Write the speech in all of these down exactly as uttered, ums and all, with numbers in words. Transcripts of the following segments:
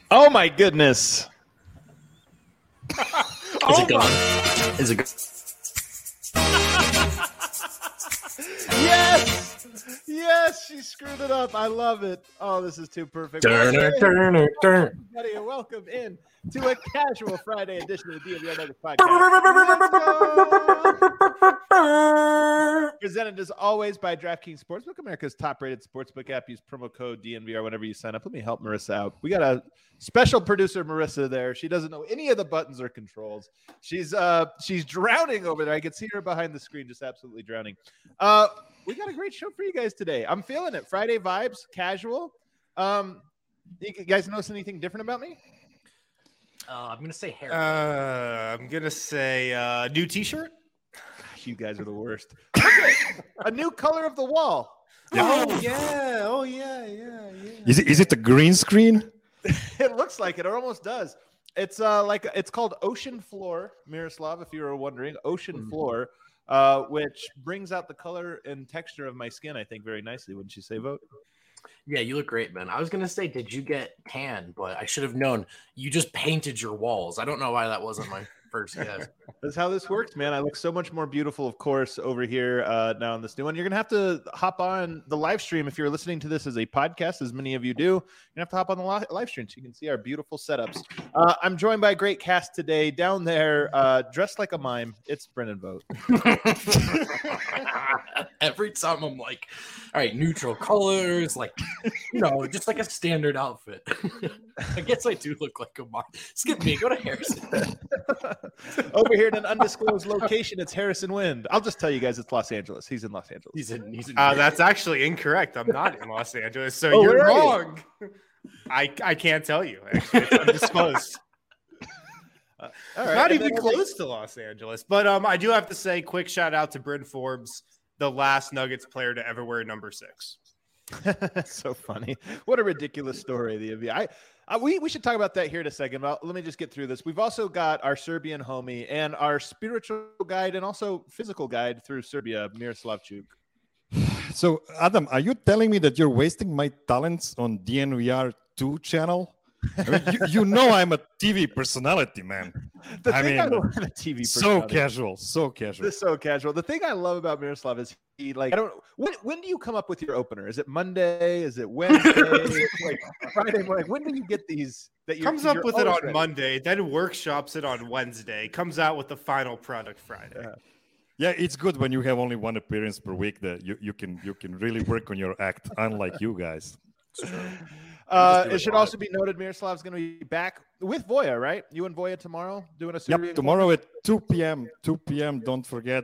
Oh my goodness! oh Is it gone? Is it gone? Yes! Yes, she screwed it up. I love it. Oh, this is too perfect. Turner, Turner, Turner. Everybody, and welcome in to a casual Friday edition of the D N V R Nuggets podcast. Presented as always by DraftKings Sportsbook, America's top-rated sportsbook app. Use promo code D N V R whenever you sign up. Let me help Marissa out. We got a special producer, Marissa, there. She doesn't know any of the buttons or controls. She's uh she's drowning over there. I can see her behind the screen, just absolutely drowning. Uh, we got a great show for you guys today. I'm feeling it. Friday vibes, casual. Um, you guys notice anything different about me? Uh, I'm gonna say hair. Uh, I'm gonna say uh, new T-shirt. You guys are the worst. A new color of the wall. Yeah. Oh yeah, oh yeah, yeah, yeah. Is it is it a green screen? It looks like it, or almost does. It's uh like it's called Ocean Floor, Miroslav, if you were wondering. Ocean mm-hmm. Floor, uh, which brings out the color and texture of my skin, I think, very nicely. Wouldn't you say, Vote? Yeah, you look great, man. I was gonna say, did you get tan? But I should have known. You just painted your walls. I don't know why that wasn't my first guess. That's how this works, man. I look so much more beautiful, of course, over here uh, now on this new one. You're gonna have to hop on the live stream if you're listening to this as a podcast, as many of you do. You're gonna have to hop on the live stream so you can see our beautiful setups. Uh, I'm joined by a great cast today. Down there, uh, dressed like a mime, it's Brennan Vote. Every time I'm like, all right, neutral colors, like, you know, just like a standard outfit. I guess I do look like a mime. Skip me, go to Harrison. Over here in an undisclosed location, it's Harrison Wind. I'll just tell you guys it's Los Angeles. He's in Los Angeles. He's in. He's in. Uh, that's actually incorrect. I'm not in Los Angeles, so oh, you're wrong. You? I I can't tell you. Actually, it's undisclosed. Uh, all right. Not and even close to Los Angeles. But um, I do have to say, quick shout out to Bryn Forbes, the last Nuggets player to ever wear number six. That's so funny. What a ridiculous story. The I, I we we should talk about that here in a second. But let me just get through this. We've also got our Serbian homie and our spiritual guide and also physical guide through Serbia, Miroslavchuk. So, Adam, are you telling me that you're wasting my talents on D N V R two channel? I mean, you, you know I'm a T V personality, man. The I thing mean, I love a T V so casual, so casual. This is so casual. The thing I love about Miroslav is he like I don't. When when do you come up with your opener? Is it Monday? Is it Wednesday? Like Friday? Like when do you get these? That you're, comes up you're with it on ready? Monday, then workshops it on Wednesday. Comes out with the final product Friday. Yeah. Yeah, it's good when you have only one appearance per week that you, you can you can really work on your act, unlike you guys. Uh, it should also be noted Miroslav's going to be back with Voya, right? You and Voya tomorrow doing a Yep, tomorrow at two p.m. two p.m. Don't forget,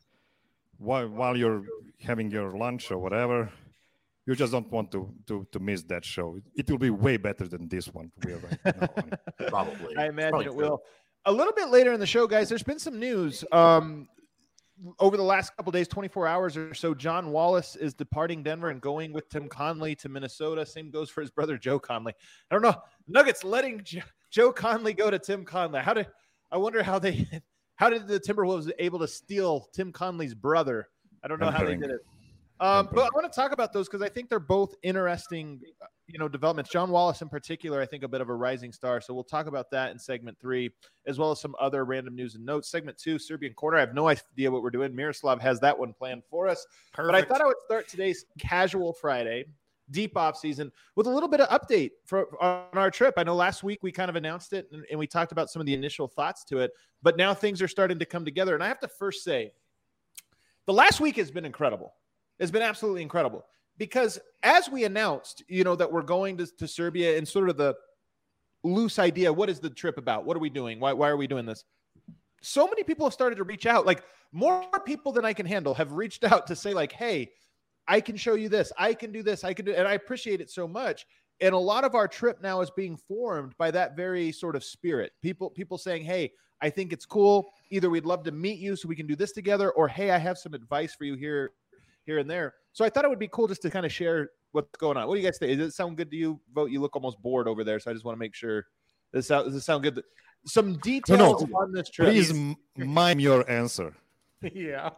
while while you're having your lunch or whatever, you just don't want to to to miss that show. It will be way better than this one we are right now on. Probably. I imagine Probably it true. will. A little bit later in the show, guys, there's been some news. Um, over the last couple days, twenty-four hours or so, John Wallace is departing Denver and going with Tim Conley to Minnesota. Same goes for his brother, Joe Conley. I don't know. Nuggets letting Jo- Joe Conley go to Tim Conley. How did I wonder how they how did the Timberwolves able to steal Tim Conley's brother? I don't know how they did it. Um, but I want to talk about those because I think they're both interesting, you know, developments. John Wallace in particular, I think a bit of a rising star. So we'll talk about that in segment three, as well as some other random news and notes. Segment two, Serbian Quarter. I have no idea what we're doing. Miroslav has that one planned for us. Perfect. But I thought I would start today's casual Friday, deep off season, with a little bit of update for on our trip. I know last week we kind of announced it and, and we talked about some of the initial thoughts to it, but now things are starting to come together. And I have to first say, the last week has been incredible. It's been absolutely incredible because as we announced, you know, that we're going to, to Serbia and sort of the loose idea, what is the trip about? What are we doing? Why, why are we doing this? So many people have started to reach out, like more people than I can handle have reached out to say like, hey, I can show you this. I can do this. I can do, and I appreciate it so much. And a lot of our trip now is being formed by that very sort of spirit. People, people saying, hey, I think it's cool. Either we'd love to meet you so we can do this together, or, hey, I have some advice for you here. here and there. So I thought it would be cool just to kind of share what's going on. What do you guys think? Does it sound good to you? Vote. You look almost bored over there. So I just want to make sure. Does, does it sound good? Some details no, no. on this trip. Please m- mime your answer. Yeah.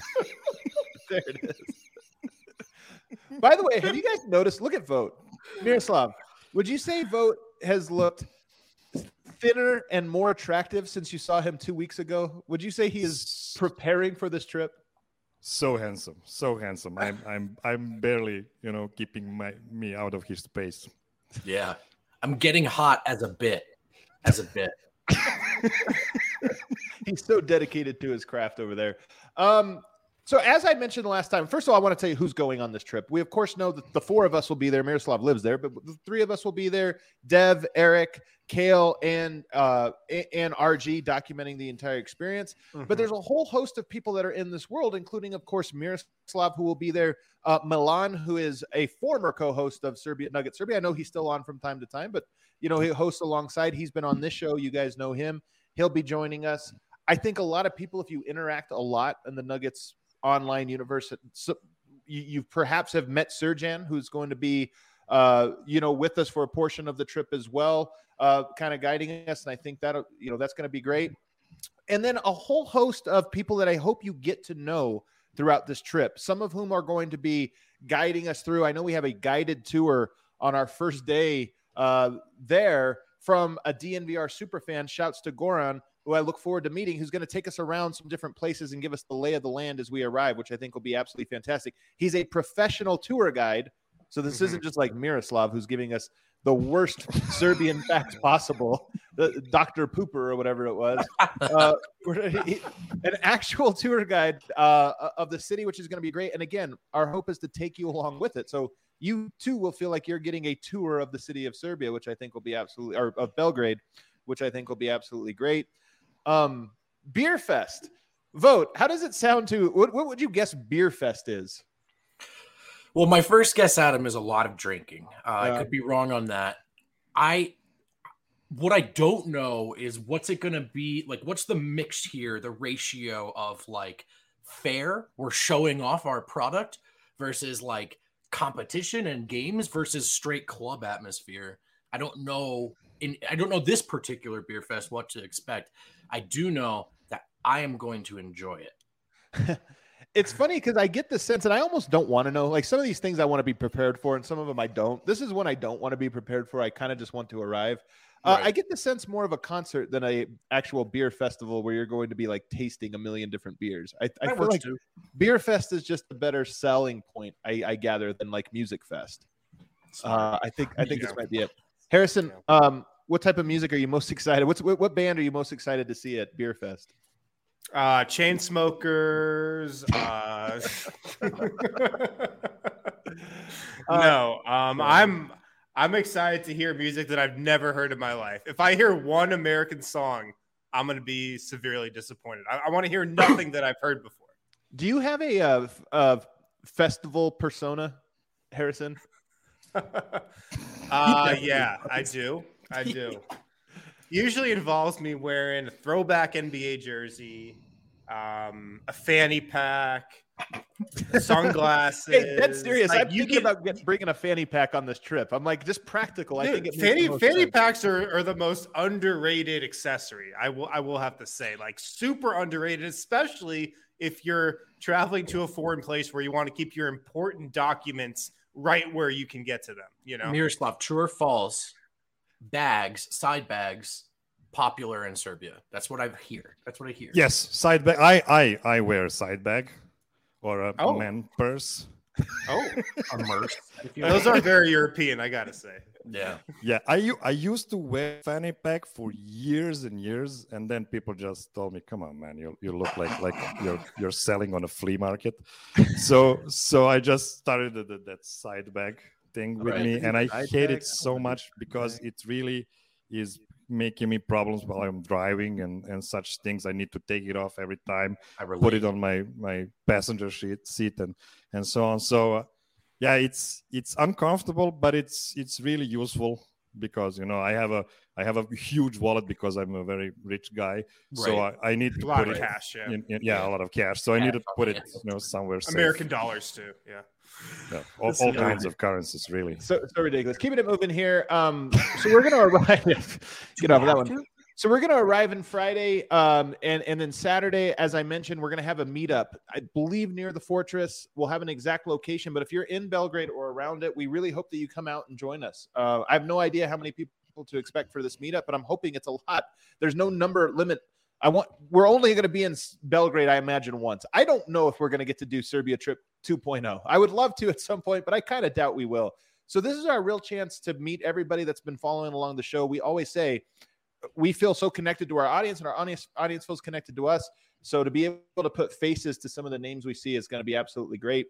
There it is. By the way, have you guys noticed? Look at Vote. Miroslav, would you say Vote has looked thinner and more attractive since you saw him two weeks ago? Would you say he is preparing for this trip? So handsome, so handsome. I'm, I'm, I'm barely, you know, keeping my me out of his space. Yeah, I'm getting hot as a bit, as a bit. He's so dedicated to his craft over there. Um, so as I mentioned last time, first of all, I want to tell you who's going on this trip. We, of course, know that the four of us will be there. Miroslav lives there, but the three of us will be there. Dev, Eric, Kale, and uh, and R G documenting the entire experience. Mm-hmm. But there's a whole host of people that are in this world, including, of course, Miroslav, who will be there. Uh, Milan, who is a former co-host of Serbia Nugget Serbia. I know he's still on from time to time, but, you know, he hosts alongside. He's been on this show. You guys know him. He'll be joining us. I think a lot of people, if you interact a lot in the Nuggets online universe, so you, you perhaps have met Serjan, who's going to be, uh, you know, with us for a portion of the trip as well, uh, kind of guiding us. And I think that, you know, that's going to be great. And then a whole host of people that I hope you get to know throughout this trip, some of whom are going to be guiding us through. I know we have a guided tour on our first day uh, there from a D N V R superfan. Shouts to Goran, who I look forward to meeting, who's going to take us around some different places and give us the lay of the land as we arrive, which I think will be absolutely fantastic. He's a professional tour guide, so this mm-hmm. isn't just like Miroslav, who's giving us the worst Serbian facts possible, the Doctor Pooper or whatever it was. Uh, an actual tour guide uh, of the city, which is going to be great. And again, our hope is to take you along with it. So you too will feel like you're getting a tour of the city of Serbia, which I think will be absolutely, or of Belgrade, which I think will be absolutely great. Um, Beer Fest. Vote. How does it sound to, what, what would you guess Beer Fest is? Well, my first guess, Adam, is a lot of drinking. Uh, uh, I could be wrong on that. I, what I don't know is what's it going to be like? What's the mix here? The ratio of like fair, we're showing off our product versus like competition and games versus straight club atmosphere. I don't know. In I don't know this particular Beer Fest what to expect. I do know that I am going to enjoy it. It's funny because I get the sense, and I almost don't want to know, like some of these things I want to be prepared for, and some of them I don't. This is one I don't want to be prepared for. I kind of just want to arrive. Uh, right. I get the sense more of a concert than a actual beer festival where you're going to be like tasting a million different beers. I, I feel like too. Beer Fest is just a better selling point, I, I gather, than like Music Fest. Uh, I think I think yeah. this might be it. Harrison, yeah. um, what type of music are you most excited? What's what, what band are you most excited to see at Beer Fest? Uh, Chainsmokers. Uh, no, um, I'm I'm excited to hear music that I've never heard in my life. If I hear one American song, I'm going to be severely disappointed. I, I want to hear nothing that I've heard before. Do you have a, a, a festival persona, Harrison? uh, yeah, I do. I do. Usually involves me wearing a throwback N B A jersey, um, a fanny pack, sunglasses. Hey, that's serious. Like, I'm thinking can... about get, bringing a fanny pack on this trip. I'm like, just practical. Dude, I think it fanny fanny sense. packs are, are the most underrated accessory. I will I will have to say, like super underrated, especially if you're traveling to a foreign place where you want to keep your important documents right where you can get to them. You know, Miroslav, true or false? Bags, side bags, popular in Serbia. That's what I hear. That's what I hear. Yes, side bag. I I I wear a side bag or a oh. man purse. Oh, a merce. Those are very European, I gotta say. Yeah, yeah. I I used to wear fanny pack for years and years, and then people just told me, "Come on, man, you you look like like you're you're selling on a flea market." So so I just started the, the, that side bag thing with right. me, and I hate it so much because it really is making me problems while I'm driving and, and such things. I need to take it off every time, I put it on my, my passenger seat, seat and, and so on. So uh, yeah, it's it's uncomfortable, but it's it's really useful because, you know, I have a I have a huge wallet because I'm a very rich guy. Right. So I, I need to a lot put of it cash, yeah. In, in, yeah, yeah, a lot of cash. So cash, I need to put it, you know, somewhere American safe. dollars too, yeah. Yeah, all, all kinds of currencies, really. So, so ridiculous. Keeping it moving here. Um, so we're going to arrive. Get off of that one. So we're going to arrive in Friday, um, and and then Saturday, as I mentioned, we're going to have a meetup. I believe near the Fortress. We'll have an exact location, but if you're in Belgrade or around it, we really hope that you come out and join us. Uh, I have no idea how many people people to expect for this meetup, but I'm hoping it's a lot. There's no number limit. I want, we're only going to be in Belgrade, I imagine, once. I don't know if we're going to get to do Serbia trip two point oh. I would love to at some point, but I kind of doubt we will. So this is our real chance to meet everybody that's been following along the show. We always say we feel so connected to our audience, and our audience, audience feels connected to us. So to be able to put faces to some of the names we see is going to be absolutely great.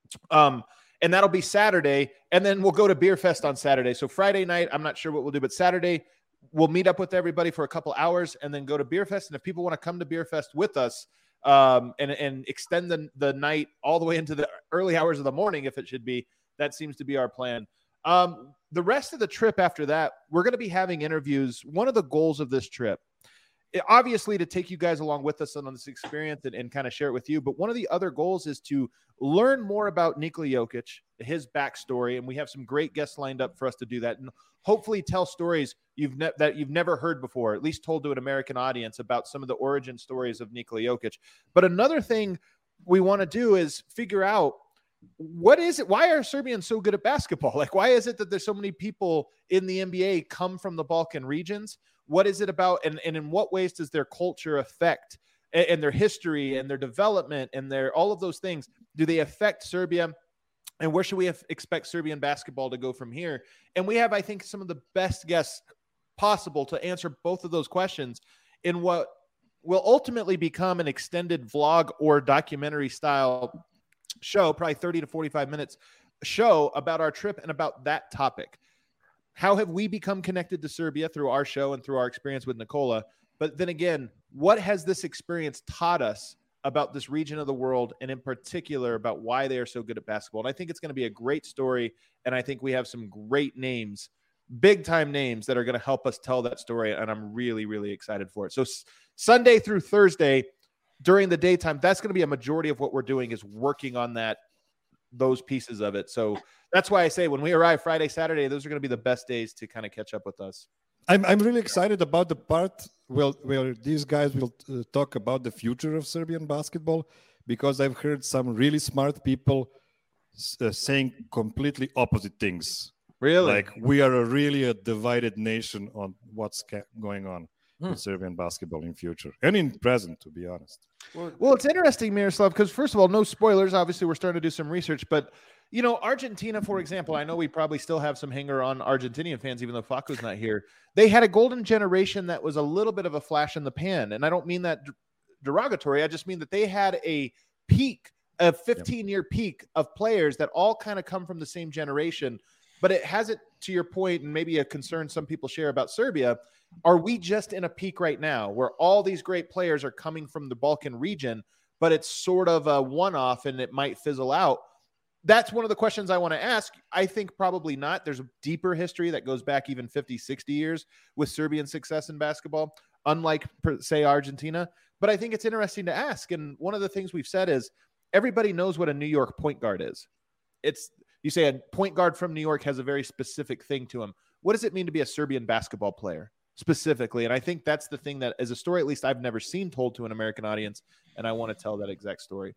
Um, and that'll be Saturday. And then we'll go to Beer Fest on Saturday. So Friday night, I'm not sure what we'll do, but Saturday, we'll meet up with everybody for a couple hours and then go to Beer Fest. And if people want to come to Beer Fest with us um, and, and extend the, the night all the way into the early hours of the morning, if it should be, that seems to be our plan. Um, the rest of the trip after that, we're going to be having interviews. One of the goals of this trip, it, obviously to take you guys along with us on this experience and, and kind of share it with you. But one of the other goals is to learn more about Nikola Jokic, his backstory. And we have some great guests lined up for us to do that. And hopefully tell stories you've ne- that you've never heard before, at least told to an American audience about some of the origin stories of Nikola Jokic. But another thing we want to do is figure out, what is it? Why are Serbians so good at basketball? Like, why is it that there's so many people in the N B A come from the Balkan regions? What is it about? And, and in what ways does their culture affect and, and their history and their development and their, all of those things, do they affect Serbia? And where should we have, expect Serbian basketball to go from here? And we have, I think, some of the best guests possible to answer both of those questions in what will ultimately become an extended vlog or documentary style show, probably thirty to forty-five minutes show about our trip and about that topic. How have we become connected to Serbia through our show and through our experience with Nikola? But then again, what has this experience taught us about this region of the world, and in particular about why they are so good at basketball? And I think it's going to be a great story, and I think we have some great names, big time names that are going to help us tell that story, and I'm really, really excited for it. So s- Sunday through Thursday, during the daytime, that's going to be a majority of what we're doing is working on that, those pieces of it. So that's why I say when we arrive Friday, Saturday, those are going to be the best days to kind of catch up with us. I'm I'm really excited about the part where, where these guys will uh, talk about the future of Serbian basketball, because I've heard some really smart people uh, saying completely opposite things. Really? Like, we are a really a divided nation on what's ca- going on Hmm. with Serbian basketball in future and in present, to be honest. Well, well it's interesting, Miroslav, because first of all, no spoilers. Obviously, we're starting to do some research, but you know, Argentina, for example, I know we probably still have some hanger on Argentinian fans, even though Facu's not here. They had a golden generation that was a little bit of a flash in the pan. And I don't mean that derogatory. I just mean that they had a peak, a fifteen-year peak of players that all kind of come from the same generation. But it hasn't, to your point, and maybe a concern some people share about Serbia, are we just in a peak right now where all these great players are coming from the Balkan region, but it's sort of a one-off and it might fizzle out? That's one of the questions I want to ask. I think probably not. There's a deeper history that goes back even fifty, sixty years with Serbian success in basketball, unlike, say, Argentina. But I think it's interesting to ask. And one of the things we've said is everybody knows what a New York point guard is. It's, you say a point guard from New York has a very specific thing to him. What does it mean to be a Serbian basketball player specifically? And I think that's the thing that, as a story, at least I've never seen told to an American audience, and I want to tell that exact story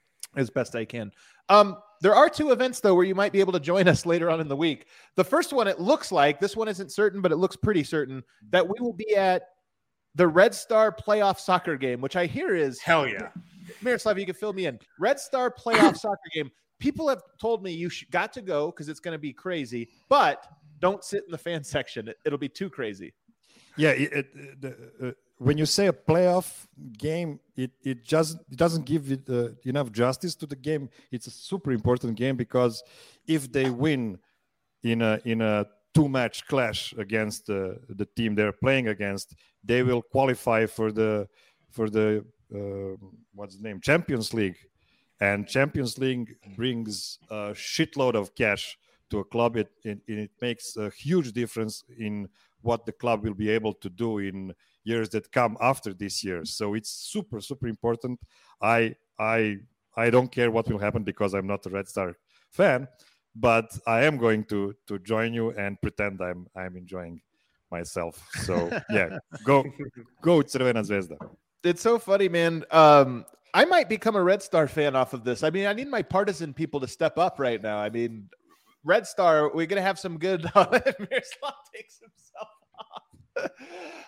as best I can. Um, there are two events, though, where you might be able to join us later on in the week. The first one, it looks like, this one isn't certain, but it looks pretty certain, that we will be at the Red Star playoff soccer game, which I hear is... Hell yeah. Miroslav, you can fill me in. Red Star playoff soccer game. People have told me you sh- got to go because it's going to be crazy, but don't sit in the fan section. It, it'll be too crazy. Yeah, it, it, the, uh, when you say a playoff game, it it just it doesn't give it uh, enough justice to the game. It's a super important game because if they win in a in a two-match clash against uh, the team they're playing against, they will qualify for the for the uh, what's the name Champions League, and Champions League brings a shitload of cash to a club. It it, it makes a huge difference in what the club will be able to do in years that come after this year. So it's super, super important. I I I don't care what will happen because I'm not a Red Star fan, but I am going to to join you and pretend I'm I'm enjoying myself. So yeah, go go Crvena Zvezda. It's so funny, man. Um, I might become a Red Star fan off of this. I mean, I need my partisan people to step up right now. I mean, Red Star, we're gonna have some good. Miroslav takes himself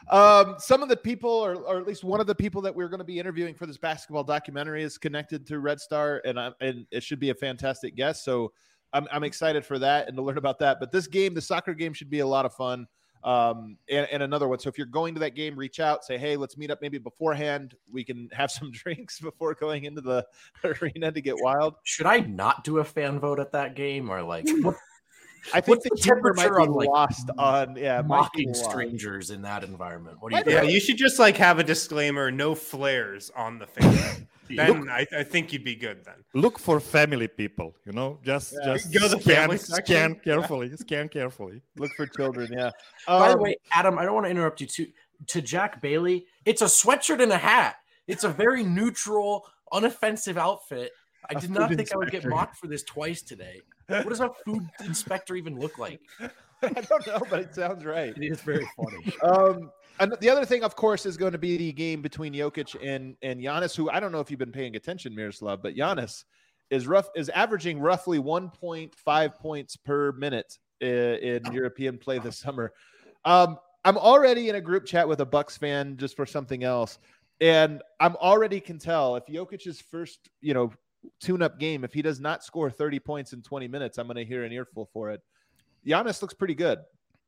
Um, some of the people, or, or at least one of the people that we're going to be interviewing for this basketball documentary is connected to Red Star, and I, and it should be a fantastic guest. So I'm, I'm excited for that and to learn about that. But this game, the soccer game, should be a lot of fun. Um, and, and another one. So if you're going to that game, reach out, say, hey, let's meet up maybe beforehand. We can have some drinks before going into the arena to get wild. Should I not do a fan vote at that game, or like? What, I think what's the the temperature might be on like lost on yeah mocking strangers in that environment? What do you? Yeah, think? you should just like have a disclaimer: no flares on the fan. Then I, I think you'd be good. Then look for family people. You know, just Yeah. just Go to the scan, family section. scan carefully, scan carefully. Look for children. Yeah. By the Um, way, Adam, I don't want to interrupt you. To to Jack Bailey, it's a sweatshirt and a hat. It's a very neutral, unoffensive outfit. I A did not food think I would get inspector. mocked for this twice today. What does a food inspector even look like? I don't know, but it sounds right. It is very funny. Um, and the other thing, of course, is going to be the game between Jokic and and Giannis, who I don't know if you've been paying attention, Miroslav, but Giannis is rough is averaging roughly one point five points per minute in, in European play this summer. Um, I'm already in a group chat with a Bucks fan just for something else, and I'm already can tell if Jokic's first, you know, tune-up game, if he does not score thirty points in twenty minutes, I'm going to hear an earful for it. Giannis looks pretty good.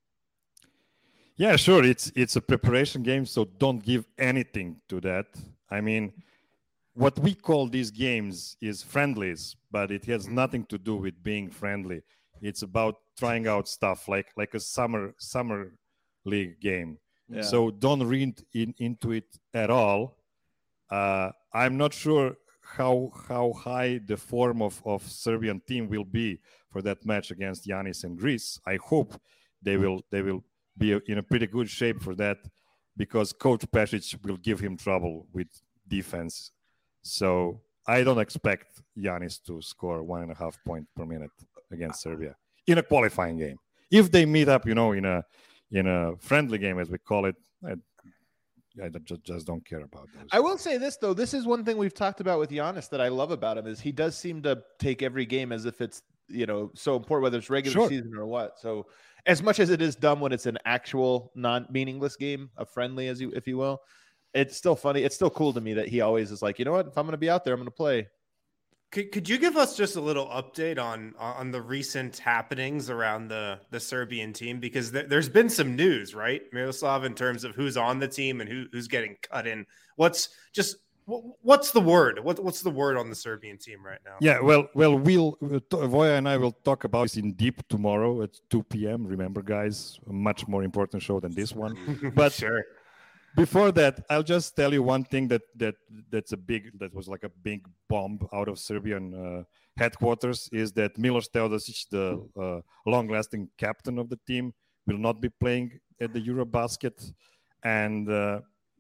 Yeah, sure. It's it's a preparation game, so don't give anything to that. I mean, what we call these games is friendlies, but it has nothing to do with being friendly. It's about trying out stuff like like a summer summer league game. Yeah. So don't read in, into it at all. Uh, I'm not sure how how high the form of, of Serbian team will be for that match against Giannis and Greece. I hope they will they will be in a pretty good shape for that, because Coach Pešić will give him trouble with defense. So I don't expect Giannis to score one and a half point per minute against Serbia in a qualifying game. If they meet up, you know, in a in a friendly game, as we call it, I, I just, just don't care about those. I will say this, though. This is one thing we've talked about with Giannis that I love about him is he does seem to take every game as if it's, you know, so important, whether it's regular Sure. season or what. So as much as it is dumb when it's an actual non-meaningless game, a friendly, as you, if you will, it's still funny. It's still cool to me that he always is like, you know what? If I'm going to be out there, I'm going to play. Could, could you give us just a little update on on the recent happenings around the, the Serbian team? Because th- there's been some news, right, Miroslav, in terms of who's on the team and who, who's getting cut in. What's just what's the word? What, what's the word on the Serbian team right now? Yeah, well, well, we'll Voya and I will talk about this in deep tomorrow at two p.m. Remember, guys, a much more important show than this one. But sure. Before that, I'll just tell you one thing that that that's a big that was like a big bomb out of Serbian uh, headquarters is that Milos Teodosic, the uh, long-lasting captain of the team, will not be playing at the Eurobasket, and uh,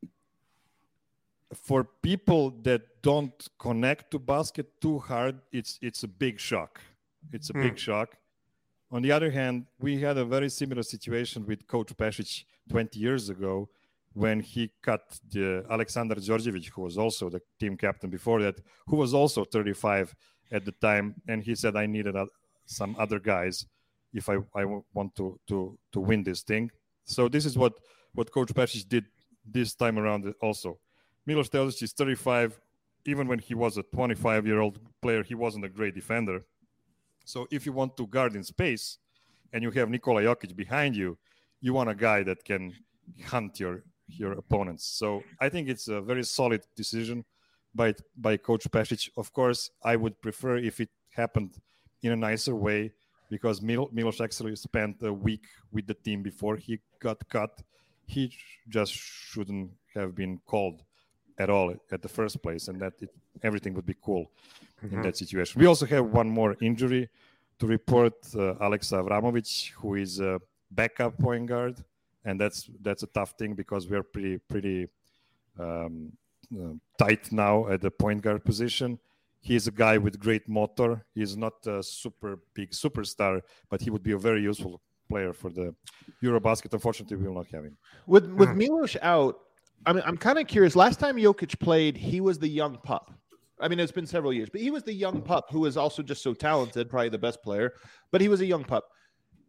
for people that don't connect to basket too hard, it's it's a big shock. It's a Hmm. big shock. On the other hand, we had a very similar situation with Coach Pešić twenty years ago, when he cut the Aleksandar Đorđević, who was also the team captain before that, who was also thirty-five at the time, and he said, I needed uh, some other guys if I, I want to, to, to win this thing. So this is what, what Coach Pešić did this time around also. Milos Teodosic is thirty-five. Even when he was a twenty-five-year-old player, he wasn't a great defender. So if you want to guard in space and you have Nikola Jokic behind you, you want a guy that can hunt your your opponents. So I think it's a very solid decision by by Coach Pešić. Of course, I would prefer if it happened in a nicer way, because Mil- Milos actually spent a week with the team before he got cut. He just shouldn't have been called at all at the first place, and that it, everything would be cool mm-hmm. in that situation. We also have one more injury to report, uh, Alex Avramovic, who is a backup point guard. And that's that's a tough thing because we're pretty pretty um, uh, tight now at the point guard position. He's a guy with great motor. He's not a super big superstar, but he would be a very useful player for the Eurobasket. Unfortunately, we will not have him. With with Milos out, I mean, I'm kind of curious. Last time Jokic played, he was the young pup. I mean, it's been several years, but he was the young pup who was also just so talented, probably the best player. But he was a young pup.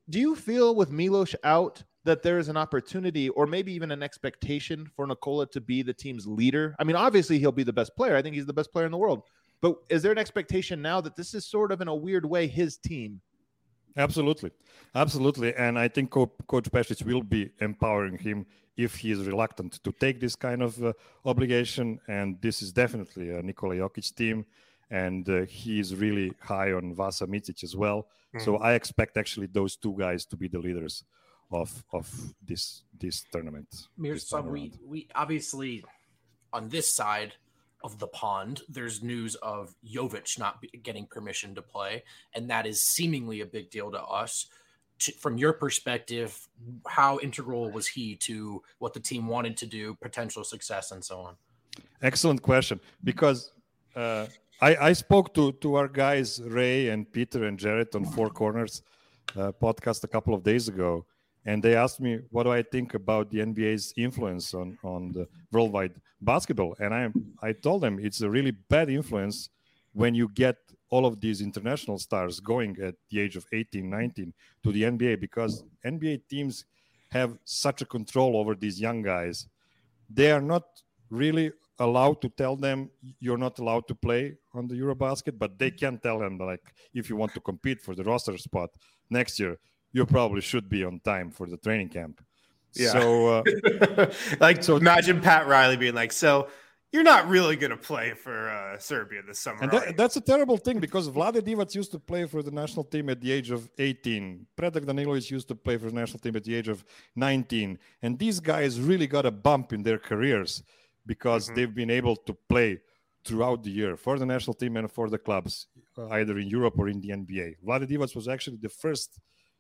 do you feel with Milos out that there is an opportunity or maybe even an expectation for Nikola to be the team's leader? I mean, obviously he'll be the best player. I think he's the best player in the world. But is there an expectation now that this is sort of in a weird way his team? Absolutely. Absolutely. And I think Co- Coach Pešić will be empowering him if he is reluctant to take this kind of uh, obligation. And this is definitely a Nikola Jokic team. And uh, he is really high on Vasa Micic as well. Mm. So I expect actually those two guys to be the leaders of of this this tournament. Miroslav, we, we obviously, on this side of the pond, there's news of Jovic not be, getting permission to play, and that is seemingly a big deal to us. To, from your perspective, how integral was he to what the team wanted to do, potential success, and so on? Excellent question, because uh, I, I spoke to, to our guys, Ray and Peter and Jared on Four Corners uh, podcast a couple of days ago, and they asked me, what do I think about the N B A's influence on, on the worldwide basketball? And I I told them it's a really bad influence when you get all of these international stars going at the age of eighteen, nineteen to the N B A, because N B A teams have such a control over these young guys. They are not really allowed to tell them you're not allowed to play on the Eurobasket, but they can tell them, like, if you want to compete for the roster spot next year, you probably should be on time for the training camp. Yeah. So, uh, like, so imagine Pat Riley being like, so you're not really going to play for uh, Serbia this summer. And that, that's a terrible thing, because Vlade Divac used to play for the national team at the age of eighteen. Predrag Danilovic used to play for the national team at the age of nineteen. And these guys really got a bump in their careers because mm-hmm. they've been able to play throughout the year for the national team and for the clubs, either in Europe or in the N B A. Vlade Divac was actually the first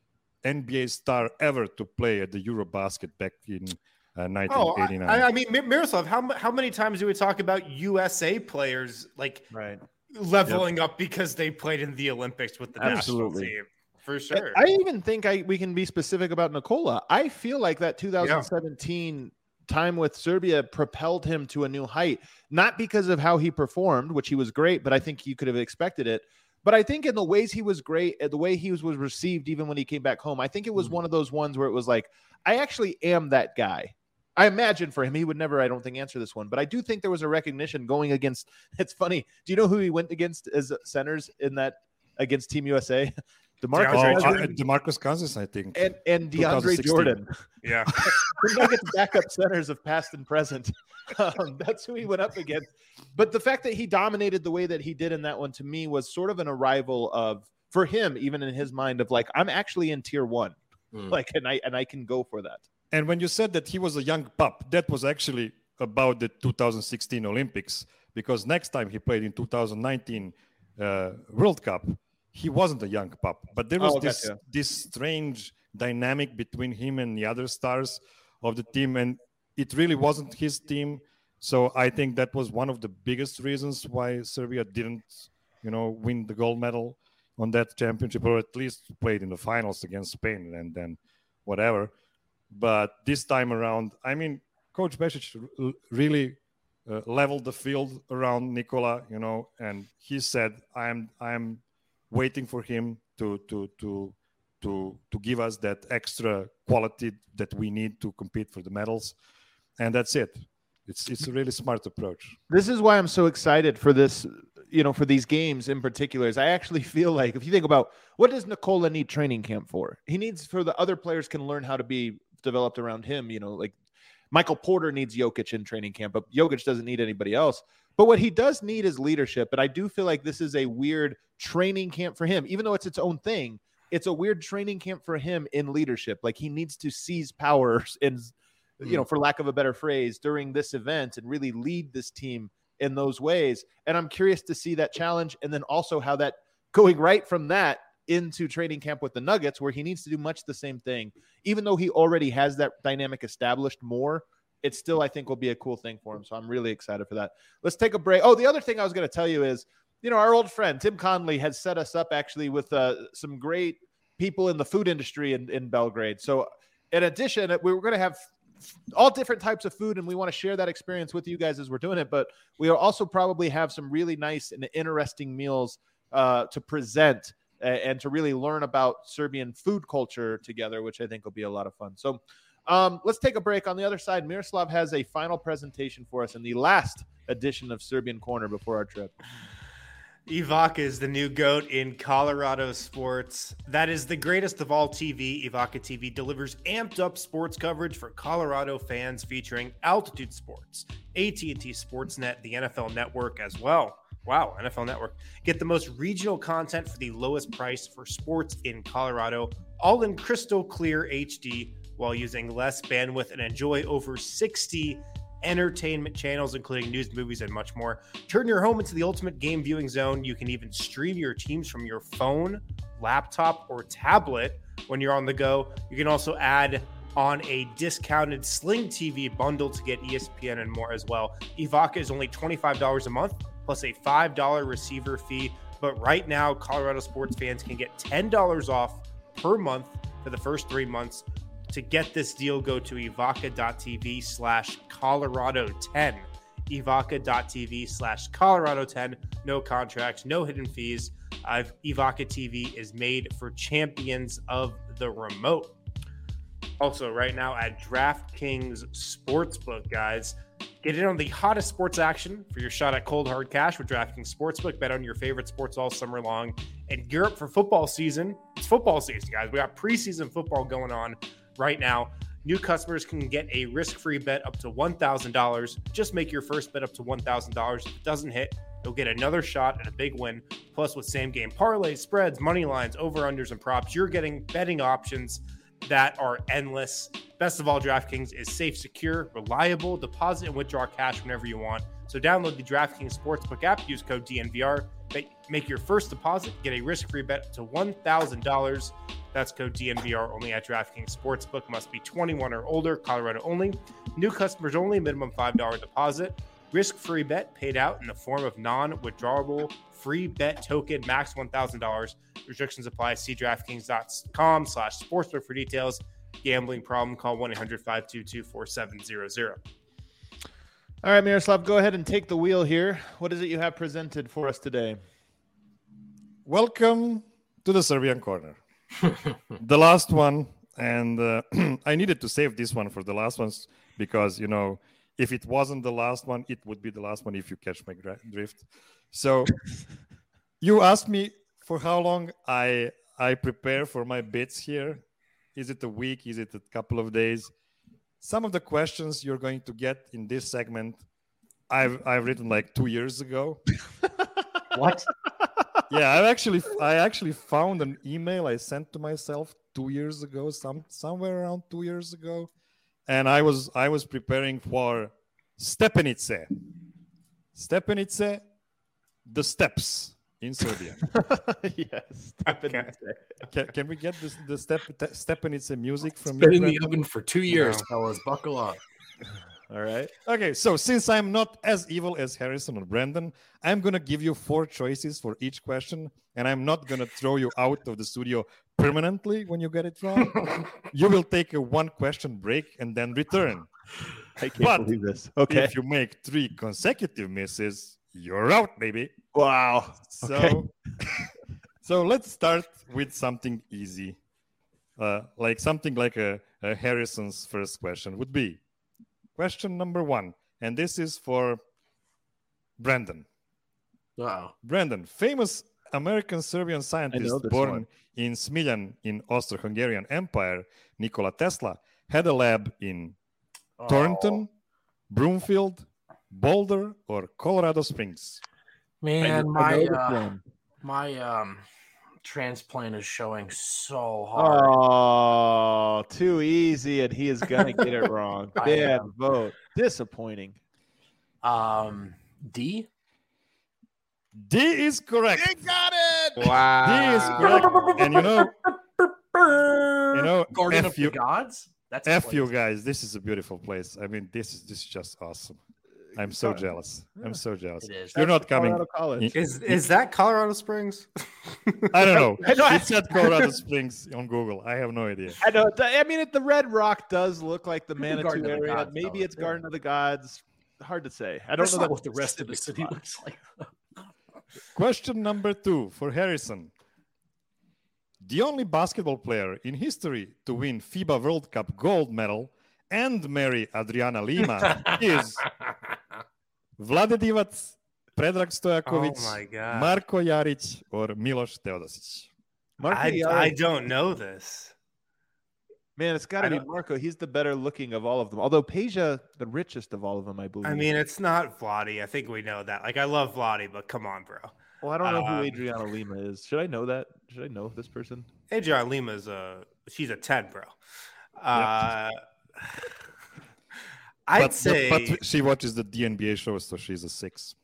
N B A star ever to play at the Eurobasket back in uh, nineteen eighty-nine. Oh, I, I mean, Miroslav, how how many times do we talk about U S A players like right. leveling yep. up because they played in the Olympics with the Absolutely. national team? For sure. I even think I we can be specific about Nikola. I feel like that two thousand seventeen yeah. time with Serbia propelled him to a new height, not because of how he performed, which he was great, but I think you could have expected it. But I think in the ways he was great, the way he was, was received, even when he came back home, I think it was mm-hmm. one of those ones where it was like, I actually am that guy. I imagine for him, he would never, I don't think, answer this one. But I do think there was a recognition going against, it's funny. Do you know who he went against as centers in that, against Team U S A? DeMarcus, oh, uh, DeMarcus Cousins, I think. And, and DeAndre Jordan. Yeah. The Nuggets backup centers of past and present. Um, that's who he went up against. But the fact that he dominated the way that he did in that one, to me, was sort of an arrival of, for him, even in his mind, of like, I'm actually in tier one. Mm. Like, and I and I can go for that. And when you said that he was a young pup, that was actually about the two thousand sixteen Olympics, because next time he played in two thousand nineteen uh, World Cup, he wasn't a young pup, but there was oh, this gotcha. this strange dynamic between him and the other stars of the team, and it really wasn't his team. So I think that was one of the biggest reasons why Serbia didn't, you know, win the gold medal on that championship, or at least played in the finals against Spain and then whatever. But this time around, I mean, Coach Pešić really uh, leveled the field around Nikola, you know, and he said, "I'm, I'm." waiting for him to to to to to give us that extra quality that we need to compete for the medals, and that's it. It's it's a really smart approach. This is why I'm so excited for this, you know, for these games in particular. Is I actually feel like, if you think about what does Nikola need training camp for? He needs for the other players can learn how to be developed around him. You know, like Michael Porter needs Jokic in training camp, but Jokic doesn't need anybody else. But what he does need is leadership. But I do feel like this is a weird training camp for him, even though it's its own thing. It's a weird training camp for him in leadership. Like, he needs to seize power and, you know, for lack of a better phrase, during this event and really lead this team in those ways. And I'm curious to see that challenge. And then also how that going right from that into training camp with the Nuggets, where he needs to do much the same thing, even though he already has that dynamic established more. It still, I think, will be a cool thing for him. So I'm really excited for that. Let's take a break. Oh, the other thing I was going to tell you is, you know, our old friend Tim Conley has set us up actually with uh, some great people in the food industry in, in Belgrade. So in addition, we were going to have all different types of food, and we want to share that experience with you guys as we're doing it. But we will also probably have some really nice and interesting meals uh, to present and to really learn about Serbian food culture together, which I think will be a lot of fun. So um, let's take a break. On the other side, Miroslav has a final presentation for us in the last edition of Serbian Corner before our trip. Ivaca is the new GOAT in Colorado sports. That is the greatest of all T V. Ivaca T V delivers amped up sports coverage for Colorado fans featuring Altitude Sports, A T and T Sportsnet, the N F L Network as well. Wow, N F L Network. Get the most regional content for the lowest price for sports in Colorado, all in crystal clear H D while using less bandwidth, and enjoy over sixty entertainment channels, including news, movies, and much more. Turn your home into the ultimate game viewing zone. You can even stream your teams from your phone, laptop, or tablet when you're on the go. You can also add on a discounted Sling T V bundle to get E S P N and more as well. Ivaca is only twenty-five dollars a month plus a five dollars receiver fee. But right now, Colorado sports fans can get ten dollars off per month for the first three months. To get this deal, go to ivaca.tv slash Colorado 10. Ivaca.tv slash Colorado 10. No contracts, no hidden fees. Uh, Ivaca T V is made for champions of the remote. Also, right now at DraftKings Sportsbook, guys, get in on the hottest sports action for your shot at cold hard cash with DraftKings Sportsbook. Bet on your favorite sports all summer long and gear up for football season. It's football season, guys. We got preseason football going on right now. New customers can get a risk-free bet up to one thousand dollars. Just make your first bet up to one thousand dollars. If it doesn't hit, you'll get another shot at a big win. Plus, with same-game parlays, spreads, money lines, over-unders, and props, you're getting betting options that are endless. Best of all, DraftKings is safe, secure, reliable. Deposit and withdraw cash whenever you want. So download the DraftKings Sportsbook app. Use code D N V R. Make your first deposit. Get a risk-free bet up to one thousand dollars. That's code D N V R only at DraftKings Sportsbook. Must be twenty-one or older. Colorado only. New customers only. Minimum five dollars deposit. Risk-free bet paid out in the form of non-withdrawable free bet token. Max one thousand dollars. Restrictions apply. See DraftKings.com slash sportsbook for details. Gambling problem? Call one eight hundred five two two four seven zero zero. All right, Miroslav, go ahead and take the wheel here. What is it you have presented for us today? Welcome to the Serbian Corner. The last one, and uh, I needed to save this one for the last ones because, you know, if it wasn't the last one, it would be the last one if you catch my drift. So you asked me for how long I I prepare for my bits here. Is it a week? Is it a couple of days? Some of the questions you're going to get in this segment, I've I've written like two years ago. What? Yeah, I actually I actually found an email I sent to myself two years ago, some somewhere around two years ago, and I was I was preparing for Stepenice. Stepenice, the steps in Serbia. Yes, Stepenice. Can, can we get this, the step Stepenice music from Been you, in the Brandon? oven for two years, no. fellas. Buckle up. All right. Okay, so since I'm not as evil as Harrison or Brandon, I'm going to give you four choices for each question, and I'm not going to throw you out of the studio permanently when you get it wrong. You will take a one-question break and then return. I can't but believe this. Okay. If you make three consecutive misses, you're out, baby. Wow. So, okay. So let's start with something easy. Uh, like something like a, a Harrison's first question would be, question number one, and this is for Brandon. Wow. Brandon, famous American Serbian scientist born one. in Smiljan in Austro-Hungarian Empire, Nikola Tesla, had a lab in Oh. Thornton, Broomfield, Boulder, or Colorado Springs. Man, I my know this uh, one. my um transplant is showing so hard. Oh, too easy, and he is gonna get it wrong. I Bad am. vote. Disappointing. Um, D. D is correct. got it. Wow. D is correct. And you know, you know, Garden F of you, the Gods. That's a F place. you guys. This is a beautiful place. I mean, this is this is just awesome. I'm so jealous. I'm so jealous. It is. You're not coming. Colorado College. Is is that Colorado Springs? I don't know. I know. It said Colorado Springs on Google. I have no idea. I know. I mean, it, the Red Rock does look like the Could be Manitou Garden of the area. Gods, Maybe though. it's Garden of the Gods. Hard to say. I don't That's know not that what the rest of the specific city spot. looks like. Question number two for Harrison. the only basketball player in history to win FIBA World Cup gold medal and marry Adriana Lima is Vlade Divac, Predrag Stojakovic, Oh my God. Marko Jaric, or Miloš Teodosic. Marco I, Jaric. I don't know this. Man, it's got to I be don't- Marco. He's the better looking of all of them. Although Peja, the richest of all of them, I believe. I mean, it's not Vladi. I think we know that. Like, I love Vladi, but come on, bro. well, I don't know um, who Adriana Lima is. Should I know that? Should I know this person? Adriana Lima's a she's a ten, bro. Uh, I'd but, say but she watches the D N B A shows, so she's a six.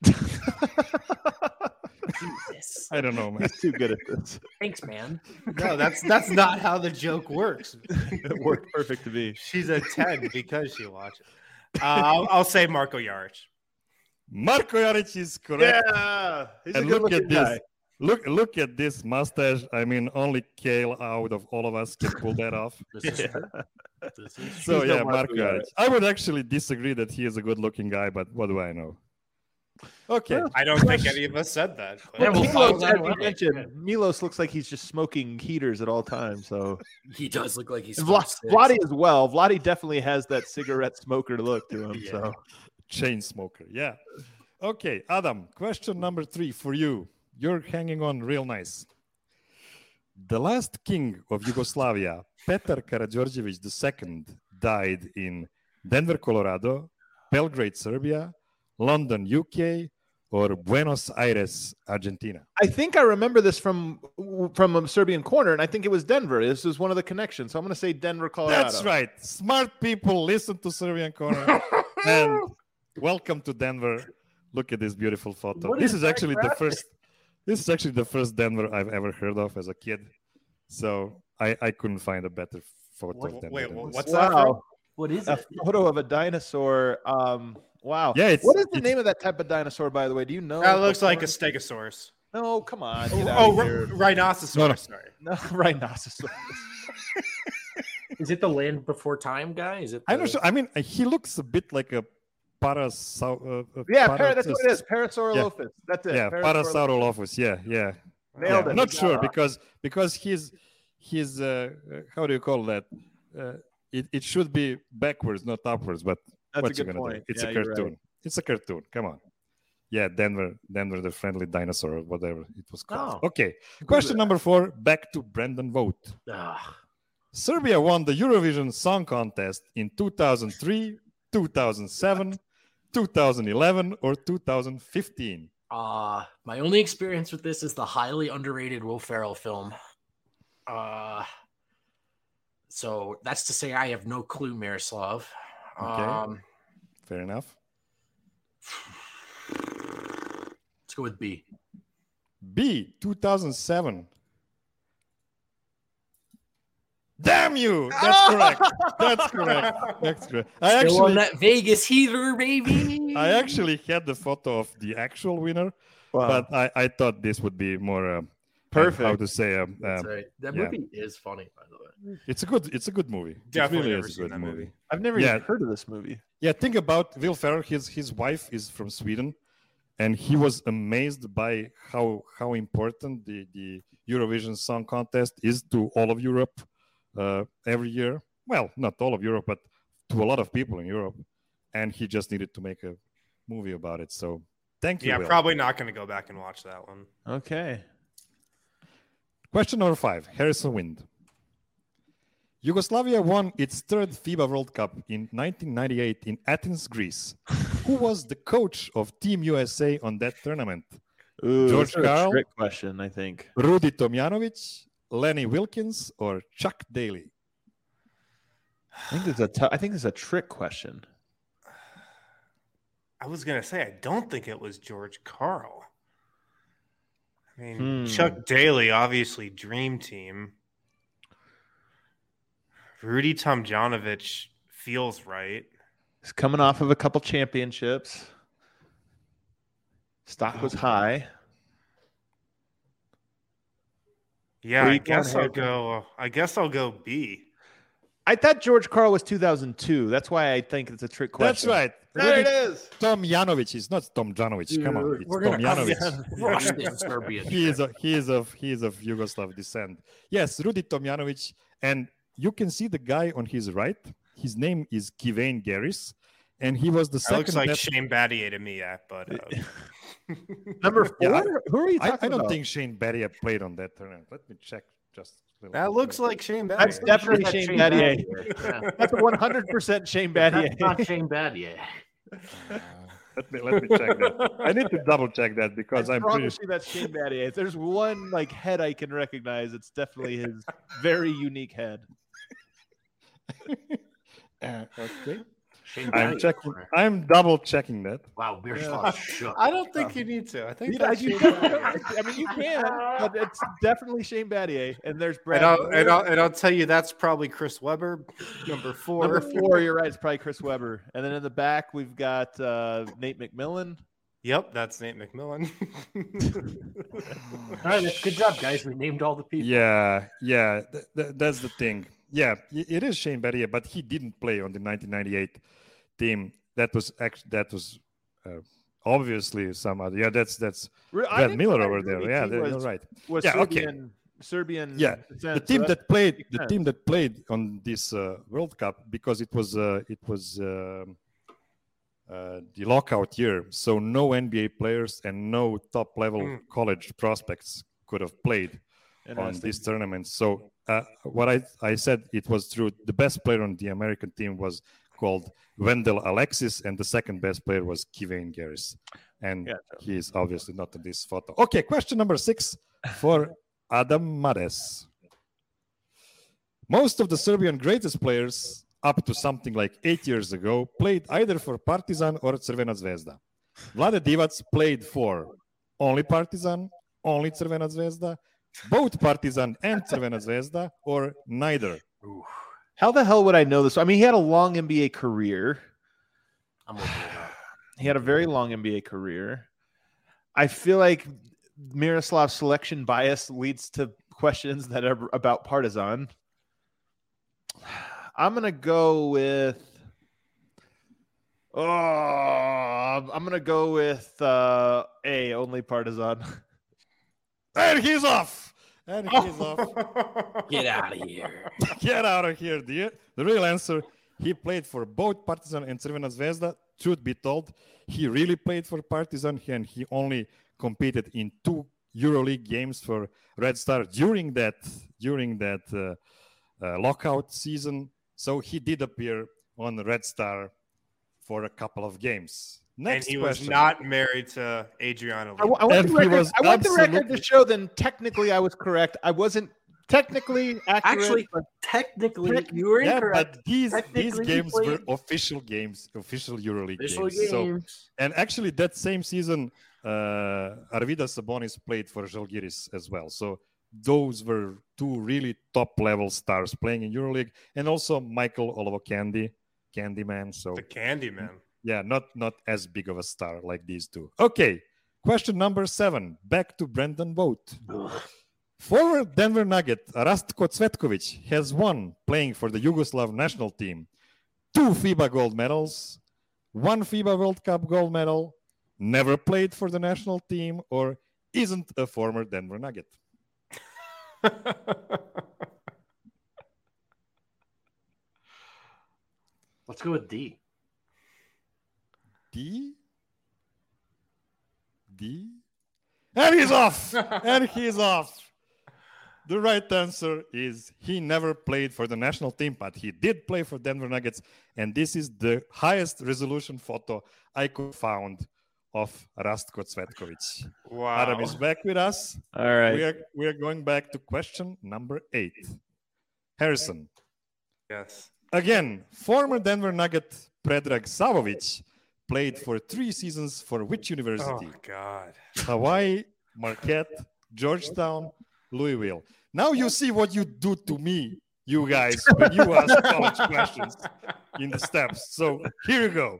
Jesus. I don't know, man. He's too good at this. Thanks, man. no. That's that's not how the joke works. It worked perfect to me. She's a ten because she watches. Uh, I'll, I'll say Marco Jaric. Marko Jaric is correct. Yeah, he's And a good look at looking this. guy. Look, look at this mustache. I mean, only Kale out of all of us can pull that off. This is Yeah. true. This is So He's no yeah, Marko Marko Jaric. I would actually disagree that he is a good-looking guy, but what do I know? Okay, Well, I don't think any of us said that. but- Yeah, we'll follow Milos, that as you one. mentioned, Milos looks like he's just smoking heaters at all times. So He does look like he's And Vla- five six. Vladi as well. Vladi definitely has that cigarette smoker look to him. Yeah. So chain smoker. Yeah. Okay, Adam. Question number three for you. You're hanging on real nice. The last king of Yugoslavia, Petar Karađorđević the second, died in Denver, Colorado, Belgrade, Serbia, London, U K, or Buenos Aires, Argentina. I think I remember this from from a Serbian corner, and I think it was Denver. This is one of the connections. So I'm going to say Denver, Colorado. That's right. Smart people listen to Serbian Corner. And welcome to Denver. Look at this beautiful photo. What This is is that actually the graphic? first. This is actually the first Denver I've ever heard of as a kid. So I, I couldn't find a better photo What- of Denver. wait, than wha- this. what's that from? Wow, What is a it? photo of a dinosaur. Um, wow. Yeah, it's- what is the it's- name of that type of dinosaur, by the way? Do you know? That looks like a before? stegosaurus. No, come on. Get out Oh, of ri- here. rhinoceros. No, no. Sorry. No, rhinoceros. Is it the Land Before Time guy? Is it? I'm the- not sure. I mean, he looks a bit like a parasau. Uh, Yeah, para- par- that's what it is. Parasaurolophus. That's it. Yeah, Parasaurolophus. Yeah, yeah. Nailed Yeah, it. Not You sure got it. because because he's he's uh, uh, how do you call that? Uh, it it should be backwards, not upwards. But That's what a you good gonna point. do? It's Yeah, a you're cartoon. right. It's a cartoon. Come on. Yeah, Denver, Denver, the friendly dinosaur, or whatever it was called. Oh. Okay. Question number four. Back to Brendan Vogt. Ah, Serbia won the Eurovision Song Contest in two thousand three, two thousand seven, two thousand eleven, or two thousand fifteen. Uh, my only experience with this is the highly underrated Will Ferrell film. Uh, so that's to say I have no clue, Miroslav. Okay. Um, Fair enough. let's go with B. B, two thousand seven. Damn you! That's correct. That's correct. That's correct. I Still on actually, that Vegas heater, baby. I actually had the photo of the actual winner, Wow. but I, I thought this would be more um, Perfect. How to say? Um, That's um, right. That yeah. movie is funny, by the way. it's a good. It's a good movie. Definitely it really never is a seen good that movie. movie. I've never Yeah. even heard of this movie. Yeah, think about Will Ferrell. His his wife is from Sweden, and he was amazed by how how important the the Eurovision Song Contest is to all of Europe uh, every year. Well, not all of Europe, but to a lot of people in Europe. And he just needed to make a movie about it. So thank you. Yeah, Will. probably not going to go back and watch that one. Okay. Question number five, Harrison Wind. Yugoslavia won its third FIBA World Cup in nineteen ninety-eight in Athens, Greece. Who was the coach of Team U S A on that tournament? Ooh, George that's a Karl? trick question, I think. Rudy Tomjanovic, Lenny Wilkins, or Chuck Daly? I think this is a tou- I think this is a trick question. I was going to say, I don't think it was George Carl. I mean, Hmm. Chuck Daly, obviously, dream team. Rudy Tomjanovic feels right. He's coming off of a couple championships. Stock was high. Yeah, Where I you going, guess I'll Harrison? go. I guess I'll go B. I thought George Karl was two thousand two. That's why I think it's a trick question. That's right. There it is. Tomjanovic is not Tomjanovic. Dude, Come on, it's we're gonna Tomjanovic. crush this Serbian. He is a, he is of he is of Yugoslav descent. Yes, Rudi Tomjanovic, and you can see the guy on his right. His name is Kivane Garis, and he was the That second. looks like best- Shane Battier to me, yeah, but uh, Number four? Yeah, I- Who are you I, talking I don't about? think Shane Battier played on that tournament. Let me check just. a little that bit. looks like Shane Battier. That's definitely That's Shane Shane Battier. Yeah. That's one hundred percent Shane Battier. That's not Shane Battier. Uh, let me let me check that. I need to double check that because I I'm pretty. promise you that's Shane Battier. If there's one like head I can recognize, it's definitely his very unique head. Uh, okay, Shane I'm Battier. checking. I'm double checking that. Wow, we're Yeah. shook. I don't think you need to. I think You- that's you Shane definitely- Battier. I mean, you can, but it's definitely Shane Battier. And there's Brad. And I'll, Miller. and, I'll, and I'll tell you that's probably Chris Webber, number four. Number four, you're right. It's probably Chris Webber. And then in the back, we've got uh, Nate McMillan. Yep, that's Nate McMillan. All right, that's good job, guys. We named all the people. Yeah, yeah, th- th- that's the thing. Yeah, i- it is Shane Battier, but he didn't play on the nineteen ninety-eight team. That was actually that was uh, obviously some other. Yeah, that's that's Re- I Brad think Miller the over there. Miami Yeah, team there- you're was, right. Was Yeah, okay. Serbian, Serbian. Yeah, descent, The so team that's- that played, makes the sense. team that played on this uh, World Cup, because it was uh, it was um uh, the lockout year, so no N B A players and no top level Mm. college prospects could have played on Interesting. this tournament. So uh, what I, I said, it was true. The best player on the American team was called Wendell Alexis, and the second best player was Kivane Garis. And Yeah. he is obviously not in this photo. Okay, question number six for Adam Mares. Most of the Serbian greatest players up to something like eight years ago played either for Partizan or Crvena Zvezda. Vlade Divac played for only Partizan, only Crvena Zvezda, both Partizan and Crvena Zvezda, or neither. Ooh, How the hell would I know this? I mean, he had a long N B A career. I'm looking it up. He had a very long N B A career. I feel like Miroslav's selection bias leads to questions that are about Partizan. I'm gonna go with. Oh, I'm gonna go with uh, A. Only Partizan. And he's off. And he's off. Get out of here. Get out of here. The, the real answer, he played for both Partizan and Crvena Zvezda. Truth be told, he really played for Partizan, and he only competed in two EuroLeague games for Red Star during that during that uh, uh, lockout season. So he did appear on Red Star for a couple of games. Next and he question. was not married to Adriana. I, wa- I want, And the he record, was I want the record absolutely- to show then technically I was correct. I wasn't technically accurate. Actually, but technically, Tec- you were Yeah, incorrect. but these these Technically, he games were played- official games, official EuroLeague Official games. So games. And actually, that same season, uh, Arvidas Sabonis played for Žalgiris as well. So those were two really top-level stars playing in EuroLeague, and also Michael Olowokandi, Candyman. So the Candyman. yeah, not not as big of a star like these two. Okay, question number seven. Back to Brendan Vogt. Former Denver Nugget Rastko Cvetkovic has won playing for the Yugoslav national team two FIBA gold medals, one FIBA World Cup gold medal, never played for the national team, or isn't a former Denver Nugget. Let's go with D. D? D? And he's off! And he's off! The right answer is he never played for the national team, but he did play for Denver Nuggets. And this is the highest resolution photo I could found of Rastko Cvetkovic. Wow. Adam is back with us. all right. We are, we are going back to question number eight. Harrison. Yes. Again, former Denver Nugget Predrag Savovic played for three seasons for which university? Oh God. Hawaii, Marquette, Georgetown, Louisville. Now you see what you do to me, you guys, when you ask college questions in the steps. So here you go.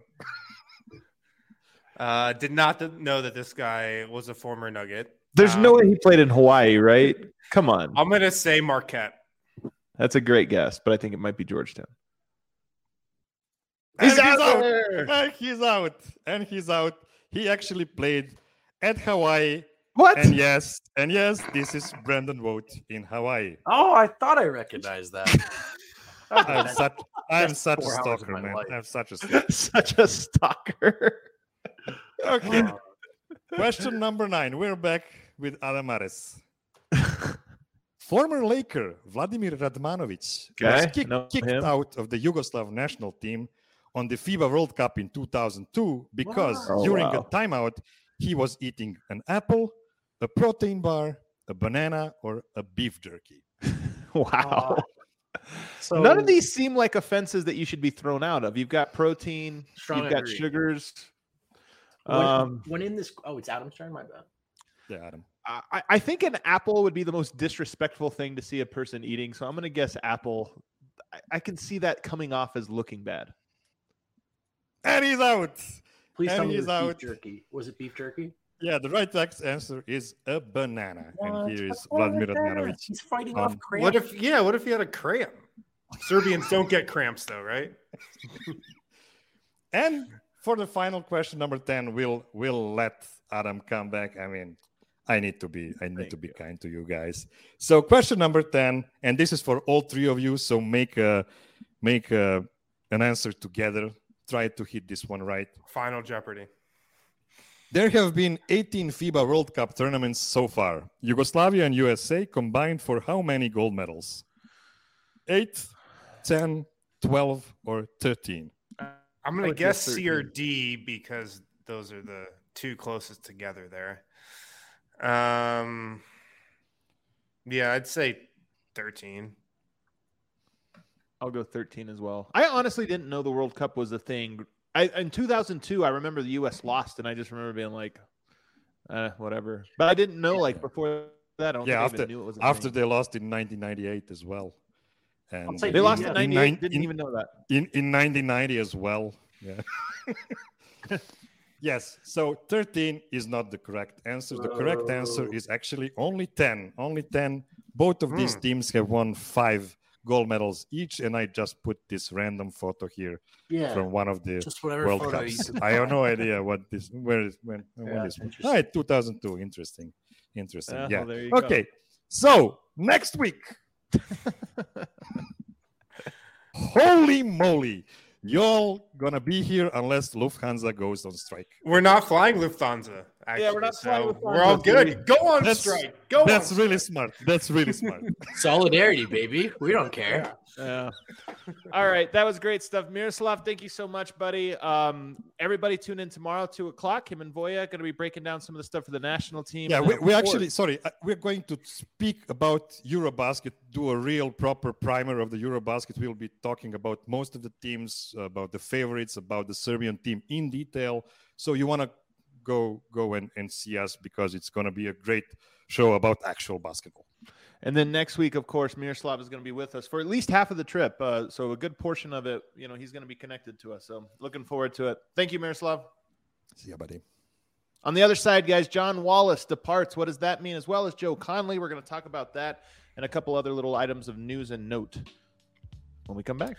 Uh, did not th- know that this guy was a former Nugget. There's Um, no way he played in Hawaii, right? Come on. I'm gonna say Marquette. That's a great guess, but I think it might be Georgetown. He's, out, out. And he's out. And he's out. He actually played at Hawaii. What? And yes, and yes, this is Brandon Vogt in Hawaii. Oh, I thought I recognized that. I'm such, I'm such a stalker, man. Life. I'm such a stalker. Such a stalker. Okay. Oh. Question number nine. We're back with Adam Ares. Former Laker Vladimir Radmanovic okay. was kick, kicked him. out of the Yugoslav national team on the FIBA World Cup in two thousand two because wow. during oh, wow. a timeout, he was eating an apple, a protein bar, a banana, or a beef jerky. Wow. So none of these seem like offenses that you should be thrown out of. You've got protein, you've got agree. sugars. When, um, when in this, oh, it's Adam's turn. My bad. Yeah, Adam. I, I think an apple would be the most disrespectful thing to see a person eating. So I'm going to guess apple. I, I can see that coming off as looking bad. And he's out. Please and tell me he's it was out. beef jerky. Was it beef jerky? Yeah, the right answer is a banana. What? And here is Vladimir Radmanovic. He's fighting um, off cramps. What if, yeah, what if he had a cramp? Serbians don't get cramps, though, right? And for the final question, number ten, we'll we'll let Adam come back. I mean, I need to be I need Thank to be you. kind to you guys. So, question number ten, and this is for all three of you. So make a make a, an answer together. Try to hit this one right. Final Jeopardy. There have been eighteen FIBA World Cup tournaments so far. Yugoslavia and U S A combined for how many gold medals? Eight, ten, twelve, or thirteen? I'm going to guess C or D because those are the two closest together there. Um, yeah, I'd say thirteen. I'll go thirteen as well. I honestly didn't know the World Cup was a thing. I, in two thousand two, I remember the U S lost, and I just remember being like, eh, whatever. But I didn't know, like, before that, I don't yeah, think after, I even knew it was a after thing. they lost in nineteen ninety-eight as well. And they lost in ninety-eight, in, didn't in, even know that. In, in nineteen ninety as well. Yeah. Yes, so thirteen is not the correct answer. The correct answer is actually only ten. Only ten. Both of hmm. these teams have won five gold medals each, and I just put this random photo here yeah, from one of the just World Cups. I have no idea what this where is when, when yeah, this one. All right, two thousand two. Interesting. Interesting. Uh, yeah. Well, okay. Go. So next week. Holy moly. Y'all gonna be here unless Lufthansa goes on strike. We're not flying Lufthansa. Actually, yeah, we're not flying so Lufthansa. We're all good. Go on that's, strike. Go. That's on really strike. smart. That's really smart. Solidarity, baby. We don't care. Yeah. All right, that was great stuff. Miroslav, thank you so much, buddy. Um, everybody tune in tomorrow, two o'clock. Him and Voya going to be breaking down some of the stuff for the national team. Yeah, we, we actually, sorry, we're going to speak about Eurobasket, do a real proper primer of the Eurobasket. We'll be talking about most of the teams, about the favorites, about the Serbian team in detail. So you want to go go and, and see us because it's going to be a great show about actual basketball. And then next week, of course, Miroslav is going to be with us for at least half of the trip. Uh, so a good portion of it, you know, he's going to be connected to us. So looking forward to it. Thank you, Miroslav. See you, buddy. On the other side, guys, John Wallace departs. What does that mean? As well as Joe Conley. We're going to talk about that and a couple other little items of news and note when we come back.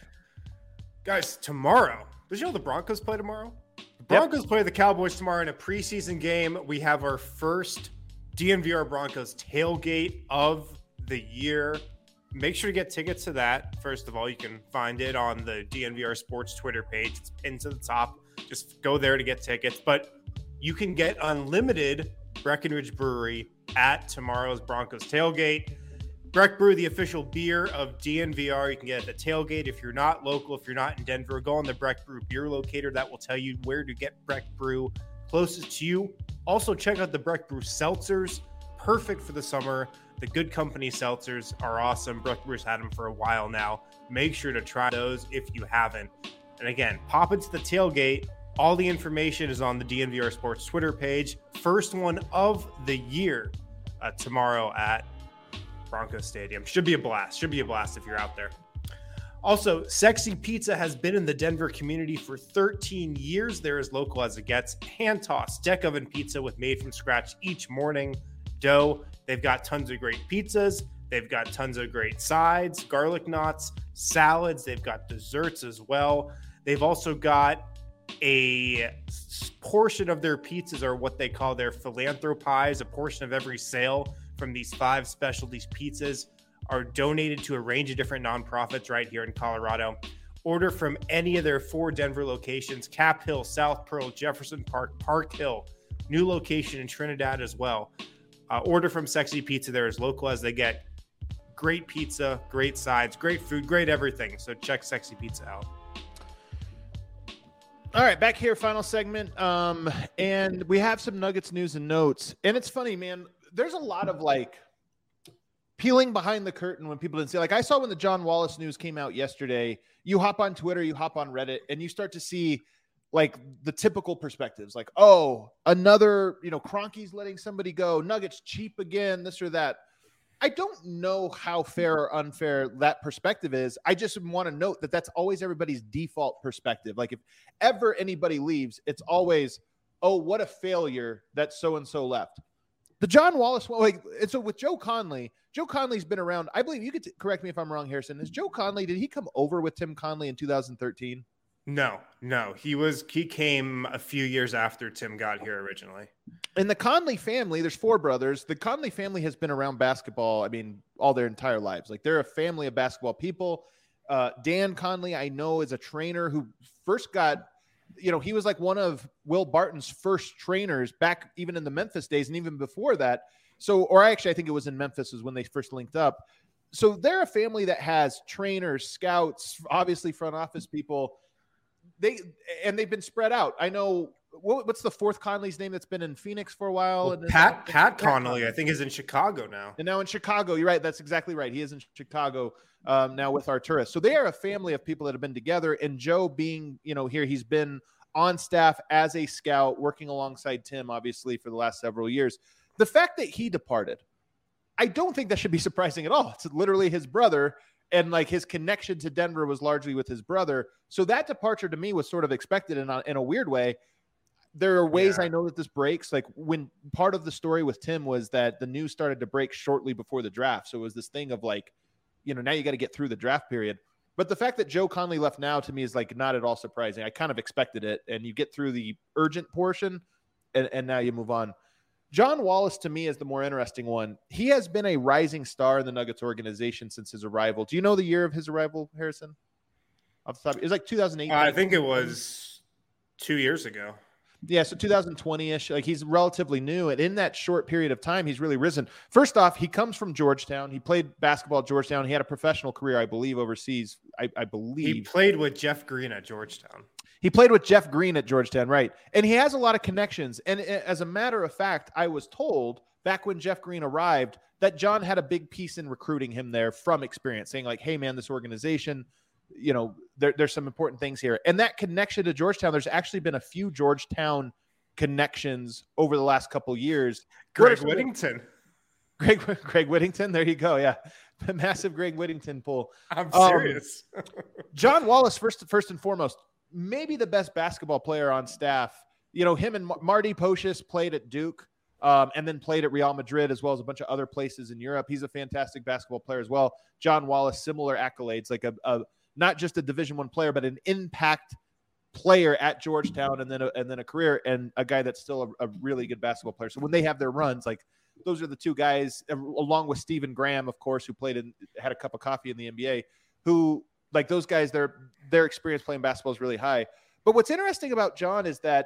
Guys, tomorrow, did you know the Broncos play tomorrow? The Broncos yep. play the Cowboys tomorrow in a preseason game. We have our first D N V R Broncos tailgate of the year. Make sure to get tickets to that. First of all, you can find it on the D N V R Sports Twitter page. It's pinned to the top. Just go there to get tickets. But you can get unlimited Breckenridge Brewery at tomorrow's Broncos tailgate. Breck Brew, the official beer of D N V R. You can get it at the tailgate. If you're not local, if you're not in Denver, go on the Breck Brew beer locator. That will tell you where to get Breck Brew closest to you. Also, check out the Breck Brew seltzers. Perfect for the summer. The Good Company seltzers are awesome. Breck Brew's had them for a while now. Make sure to try those if you haven't. And again, pop into the tailgate. All the information is on the D N V R Sports Twitter page. First one of the year uh, tomorrow at Broncos Stadium. Should be a blast. Should be a blast if you're out there. Also, Sexy Pizza has been in the Denver community for thirteen years. They're as local as it gets. Hand-tossed deck oven pizza with made from scratch each morning dough. They've got tons of great pizzas. They've got tons of great sides, garlic knots, salads. They've got desserts as well. They've also got a portion of their pizzas are what they call their philanthropies. A portion of every sale from these five specialties pizzas are donated to a range of different nonprofits right here in Colorado. Order from any of their four Denver locations: Cap Hill, South Pearl, Jefferson Park, Park Hill, new location in Trinidad as well. Uh, order from Sexy Pizza. They're as local as they get. Great pizza, great sides, great food, great everything. So check Sexy Pizza out. All right, back here, final segment. Um, and we have some Nuggets news and notes. And it's funny, man. There's a lot of like peeling behind the curtain when people didn't see. Like I saw when the John Wallace news came out yesterday, you hop on Twitter, you hop on Reddit, and you start to see like the typical perspectives. Like, oh, another, you know, Kroenke's letting somebody go. Nuggets cheap again, this or that. I don't know how fair or unfair that perspective is. I just want to note that that's always everybody's default perspective. Like if ever anybody leaves, it's always, oh, what a failure that so-and-so left. The John Wallace, well, like, and so with Joe Conley, Joe Conley's been around. I believe you could t- correct me if I'm wrong, Harrison. Is Joe Conley, did he come over with Tim Conley in two thousand thirteen? No, no, he was, he came a few years after Tim got here originally. In the Conley family, there's four brothers. The Conley family has been around basketball, I mean, all their entire lives. Like they're a family of basketball people. Uh, Dan Conley, I know, is a trainer who first got, you know, he was like one of Will Barton's first trainers back even in the Memphis days. And even before that. So, or actually, I think it was in Memphis is when they first linked up. So they're a family that has trainers, scouts, obviously front office people. They and they've been spread out. I know what, what's the fourth Conley's name that's been in Phoenix for a while. Well, and Pat Pat Conley, I think, is in Chicago now. And now in Chicago, you're right. That's exactly right. He is in Chicago um, now with Arturas. So they are a family of people that have been together. And Joe being, you know, here, he's been on staff as a scout, working alongside Tim, obviously, for the last several years. The fact that he departed, I don't think that should be surprising at all. It's literally his brother. And like his connection to Denver was largely with his brother. So that departure to me was sort of expected in a, in a weird way. There are ways yeah. I know that this breaks. Like when part of the story with Tim was that the news started to break shortly before the draft. So it was this thing of like, you know, now you got to get through the draft period. But the fact that Joe Conley left now to me is like not at all surprising. I kind of expected it. And you get through the urgent portion and, and now you move on. John Wallace, to me, is the more interesting one. He has been a rising star in the Nuggets organization since his arrival. Do you know the year of his arrival, Harrison? Off the top, it was like two thousand eight. Uh, I think it was two years ago. Yeah, so two thousand twenty-ish. Like he's relatively new, and in that short period of time, he's really risen. First off, he comes from Georgetown. He played basketball at Georgetown. He had a professional career, I believe, overseas. I, I believe he played with Jeff Green at Georgetown. He played with Jeff Green at Georgetown, right? And he has a lot of connections. And as a matter of fact, I was told back when Jeff Green arrived that John had a big piece in recruiting him there from experience, saying like, hey, man, this organization, you know, there, there's some important things here. And that connection to Georgetown, there's actually been a few Georgetown connections over the last couple years. Greg Whittington. Greg, Greg Whittington. There you go. Yeah. The massive Greg Whittington pull. I'm serious. Um, John Wallace, first, first and foremost, maybe the best basketball player on staff. You know, him and Mar- Marty Pocious played at Duke um, and then played at Real Madrid as well as a bunch of other places in Europe. He's a fantastic basketball player as well. John Wallace, similar accolades, like a, a not just a Division One player, but an impact player at Georgetown and then a, and then a career and a guy that's still a, a really good basketball player. So when they have their runs, like those are the two guys, along with Stephen Graham, of course, who played and had a cup of coffee in the N B A, who like those guys, their their experience playing basketball is really high. But what's interesting about John is that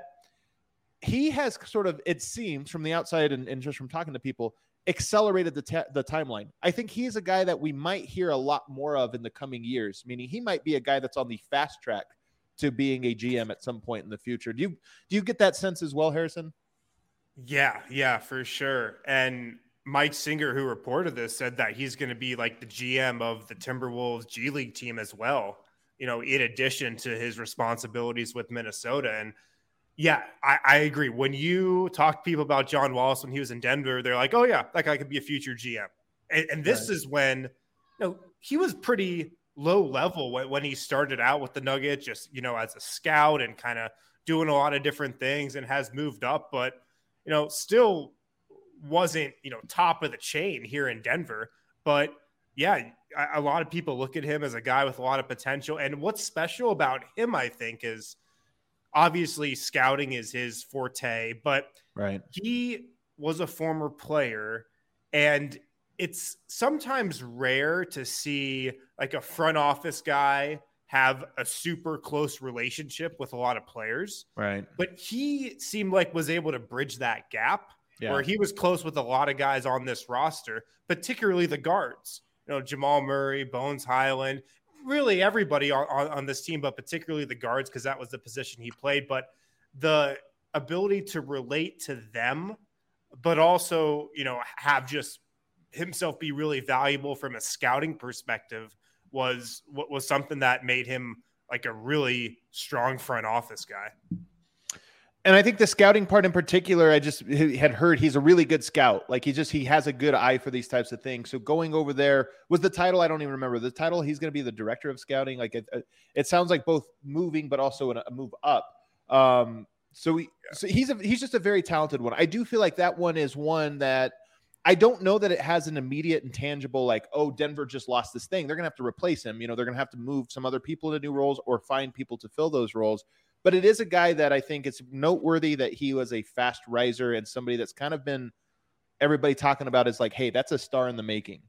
he has sort of, it seems from the outside and, and just from talking to people, accelerated the ta- the timeline. I think he's a guy that we might hear a lot more of in the coming years, meaning he might be a guy that's on the fast track to being a G M at some point in the future. Do you do you get that sense as well, Harrison? Yeah, yeah, for sure. And Mike Singer, who reported this, said that he's going to be like the G M of the Timberwolves G League team as well, you know, in addition to his responsibilities with Minnesota. And yeah, I, I agree. When you talk to people about John Wallace when he was in Denver, they're like, oh yeah, that guy could be a future G M. And, and this right. is when, you know, he was pretty low level when, when he started out with the Nuggets, just, you know, as a scout and kind of doing a lot of different things, and has moved up, but, you know, still wasn't, you know, top of the chain here in Denver. But yeah, a lot of people look at him as a guy with a lot of potential. And what's special about him, I think, is obviously scouting is his forte, but right. he was a former player, and it's sometimes rare to see like a front office guy have a super close relationship with a lot of players. Right. But he seemed like was able to bridge that gap yeah. where he was close with a lot of guys on this roster, particularly the guards, you know, Jamal Murray, Bones Highland, really everybody on, on, on this team, but particularly the guards, because that was the position he played. But the ability to relate to them, but also, you know, have just himself be really valuable from a scouting perspective was what was something that made him like a really strong front office guy. And I think the scouting part in particular, I just had heard he's a really good scout. Like he just, he has a good eye for these types of things. So going over there was the title. I don't even remember the title. He's going to be the director of scouting. Like it, it sounds like both moving, but also a move up. Um, so, he, so he's a, he's just a very talented one. I do feel like that one is one that I don't know that it has an immediate and tangible, like, oh, Denver just lost this thing. They're going to have to replace him. You know, they're going to have to move some other people into new roles or find people to fill those roles. But it is a guy that I think it's noteworthy that he was a fast riser and somebody that's kind of been everybody talking about is like, hey, that's a star in the making.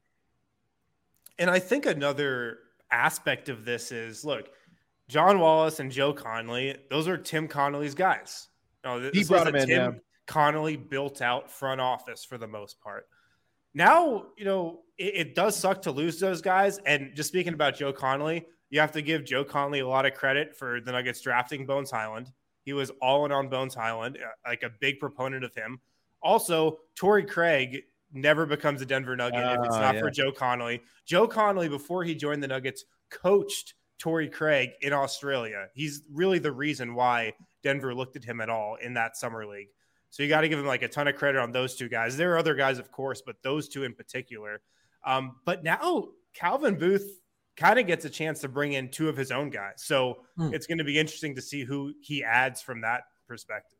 And I think another aspect of this is, look, John Wallace and Joe Connolly, those are Tim Connolly's guys. No, this he brought him in, Tim yeah. Connolly built out front office for the most part. Now, you know, it, it does suck to lose those guys. And just speaking about Joe Connolly, you have to give Joe Connolly a lot of credit for the Nuggets drafting Bones Highland. He was all in on Bones Highland, like a big proponent of him. Also, Torrey Craig never becomes a Denver Nugget uh, if it's not yeah. for Joe Connolly. Joe Connolly, before he joined the Nuggets, coached Torrey Craig in Australia. He's really the reason why Denver looked at him at all in that summer league. So you got to give him like a ton of credit on those two guys. There are other guys, of course, but those two in particular. Um, but now Calvin Booth kind of gets a chance to bring in two of his own guys. So hmm. it's going to be interesting to see who he adds from that perspective.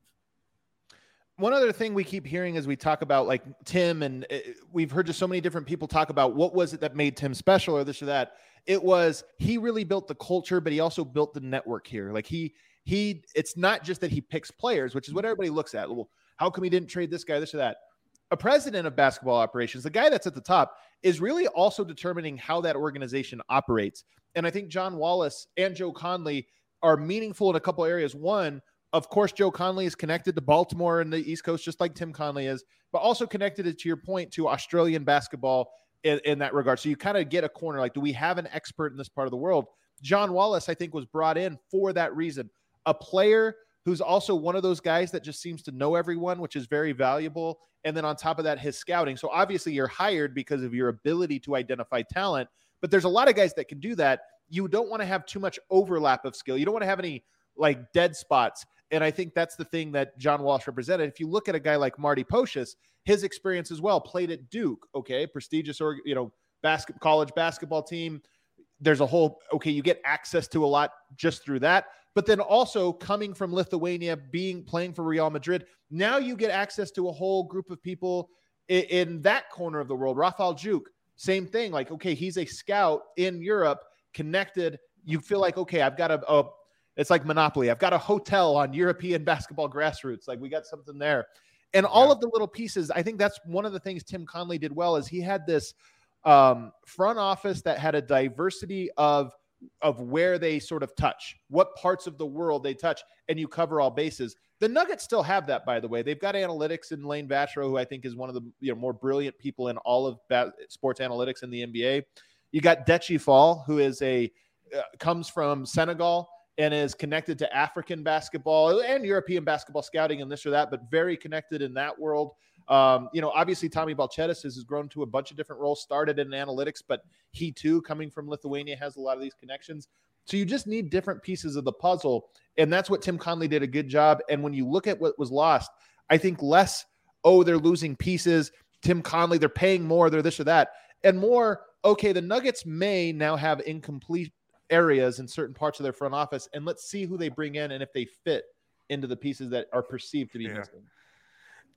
One other thing we keep hearing as we talk about like Tim, and uh, we've heard just so many different people talk about what was it that made Tim special or this or that. It was, he really built the culture, but he also built the network here. Like he, he, it's not just that he picks players, which is what everybody looks at. Well, how come he didn't trade this guy, this or that? A president of basketball operations, the guy that's at the top, is really also determining how that organization operates. And I think John Wallace and Joe Connolly are meaningful in a couple areas. One, of course, Joe Connolly is connected to Baltimore and the East Coast, just like Tim Connolly is, but also connected, to your point, to Australian basketball in, in that regard. So you kind of get a corner, like, do we have an expert in this part of the world? John Wallace, I think, was brought in for that reason. A player who's also one of those guys that just seems to know everyone, which is very valuable. And then on top of that, his scouting. So obviously you're hired because of your ability to identify talent, but there's a lot of guys that can do that. You don't want to have too much overlap of skill. You don't want to have any like dead spots. And I think that's the thing that John Walsh represented. If you look at a guy like Marty Pocious, his experience as well, played at Duke, okay, prestigious, or you know, basket, college basketball team. There's a whole, okay, you get access to a lot just through that. But then also coming from Lithuania, being playing for Real Madrid, now you get access to a whole group of people in, in that corner of the world. Rafael Juk, same thing. Like, okay, he's a scout in Europe, connected. You feel like, okay, I've got a, a it's like Monopoly. I've got a hotel on European basketball grassroots. Like we got something there. And all yeah. of the little pieces, I think that's one of the things Tim Connolly did well is he had this um, front office that had a diversity of of where they sort of touch, what parts of the world they touch, and you cover all bases. The Nuggets still have that, by the way. They've got analytics in Lane Vatro, who I think is one of the you know more brilliant people in all of ba- sports analytics in the N B A. You got Dechi Fall, who is a uh, comes from Senegal and is connected to African basketball and European basketball scouting and this or that, but very connected in that world. Um, you know, obviously Tommy Balčėtis has grown to a bunch of different roles, started in analytics, but he too, coming from Lithuania, has a lot of these connections. So you just need different pieces of the puzzle. And that's what Tim Connolly did a good job. And when you look at what was lost, I think less, oh, they're losing pieces. Tim Connolly, they're paying more, they're this or that. And more, okay, the Nuggets may now have incomplete areas in certain parts of their front office. And let's see who they bring in and if they fit into the pieces that are perceived to be yeah. missing.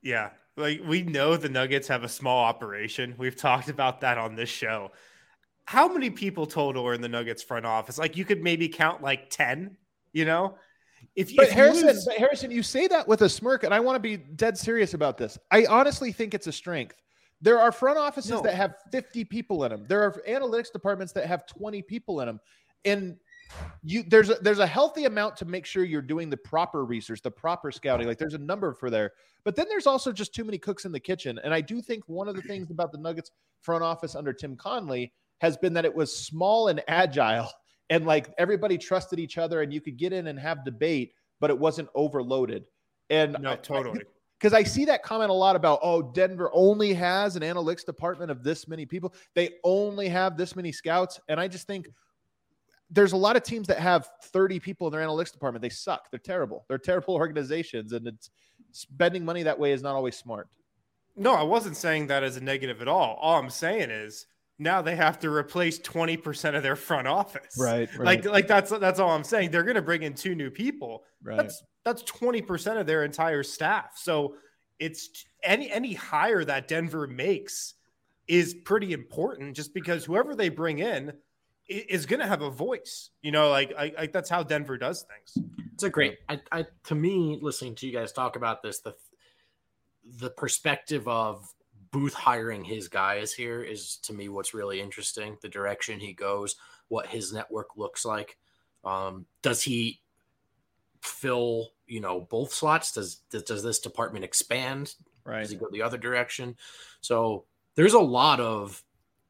Yeah. Like, we know the Nuggets have a small operation. We've talked about that on this show. How many people total are in the Nuggets front office? Like, you could maybe count like ten, you know? If, but if Harrison, lose... but Harrison, you say that with a smirk, and I want to be dead serious about this. I honestly think it's a strength. There are front offices no. that have fifty people in them. There are analytics departments that have twenty people in them. And you there's a, there's a healthy amount to make sure you're doing the proper research, the proper scouting. Like, there's a number for there. But then there's also just too many cooks in the kitchen. And I do think one of the things about the Nuggets front office under Tim Connelly has been that it was small and agile, and like everybody trusted each other, and you could get in and have debate, but it wasn't overloaded. And no, totally. Because I, I see that comment a lot about, oh, Denver only has an analytics department of this many people. They only have this many scouts. And I just think there's a lot of teams that have thirty people in their analytics department. They suck. They're terrible. They're terrible organizations. And it's spending money that way is not always smart. No, I wasn't saying that as a negative at all. All I'm saying is now they have to replace twenty percent of their front office. Right. right. Like, like that's, that's all I'm saying. They're going to bring in two new people. Right. That's, that's twenty percent of their entire staff. So it's any, any hire that Denver makes is pretty important, just because whoever they bring in is going to have a voice, you know, like, I, I, that's how Denver does things. It's a great, I, I, to me, listening to you guys talk about this, the, the perspective of Booth hiring his guys here is, to me, what's really interesting. The direction he goes, what his network looks like. Um, does he fill, you know, both slots? Does, does, does this department expand? Right. Does he go the other direction? So there's a lot of,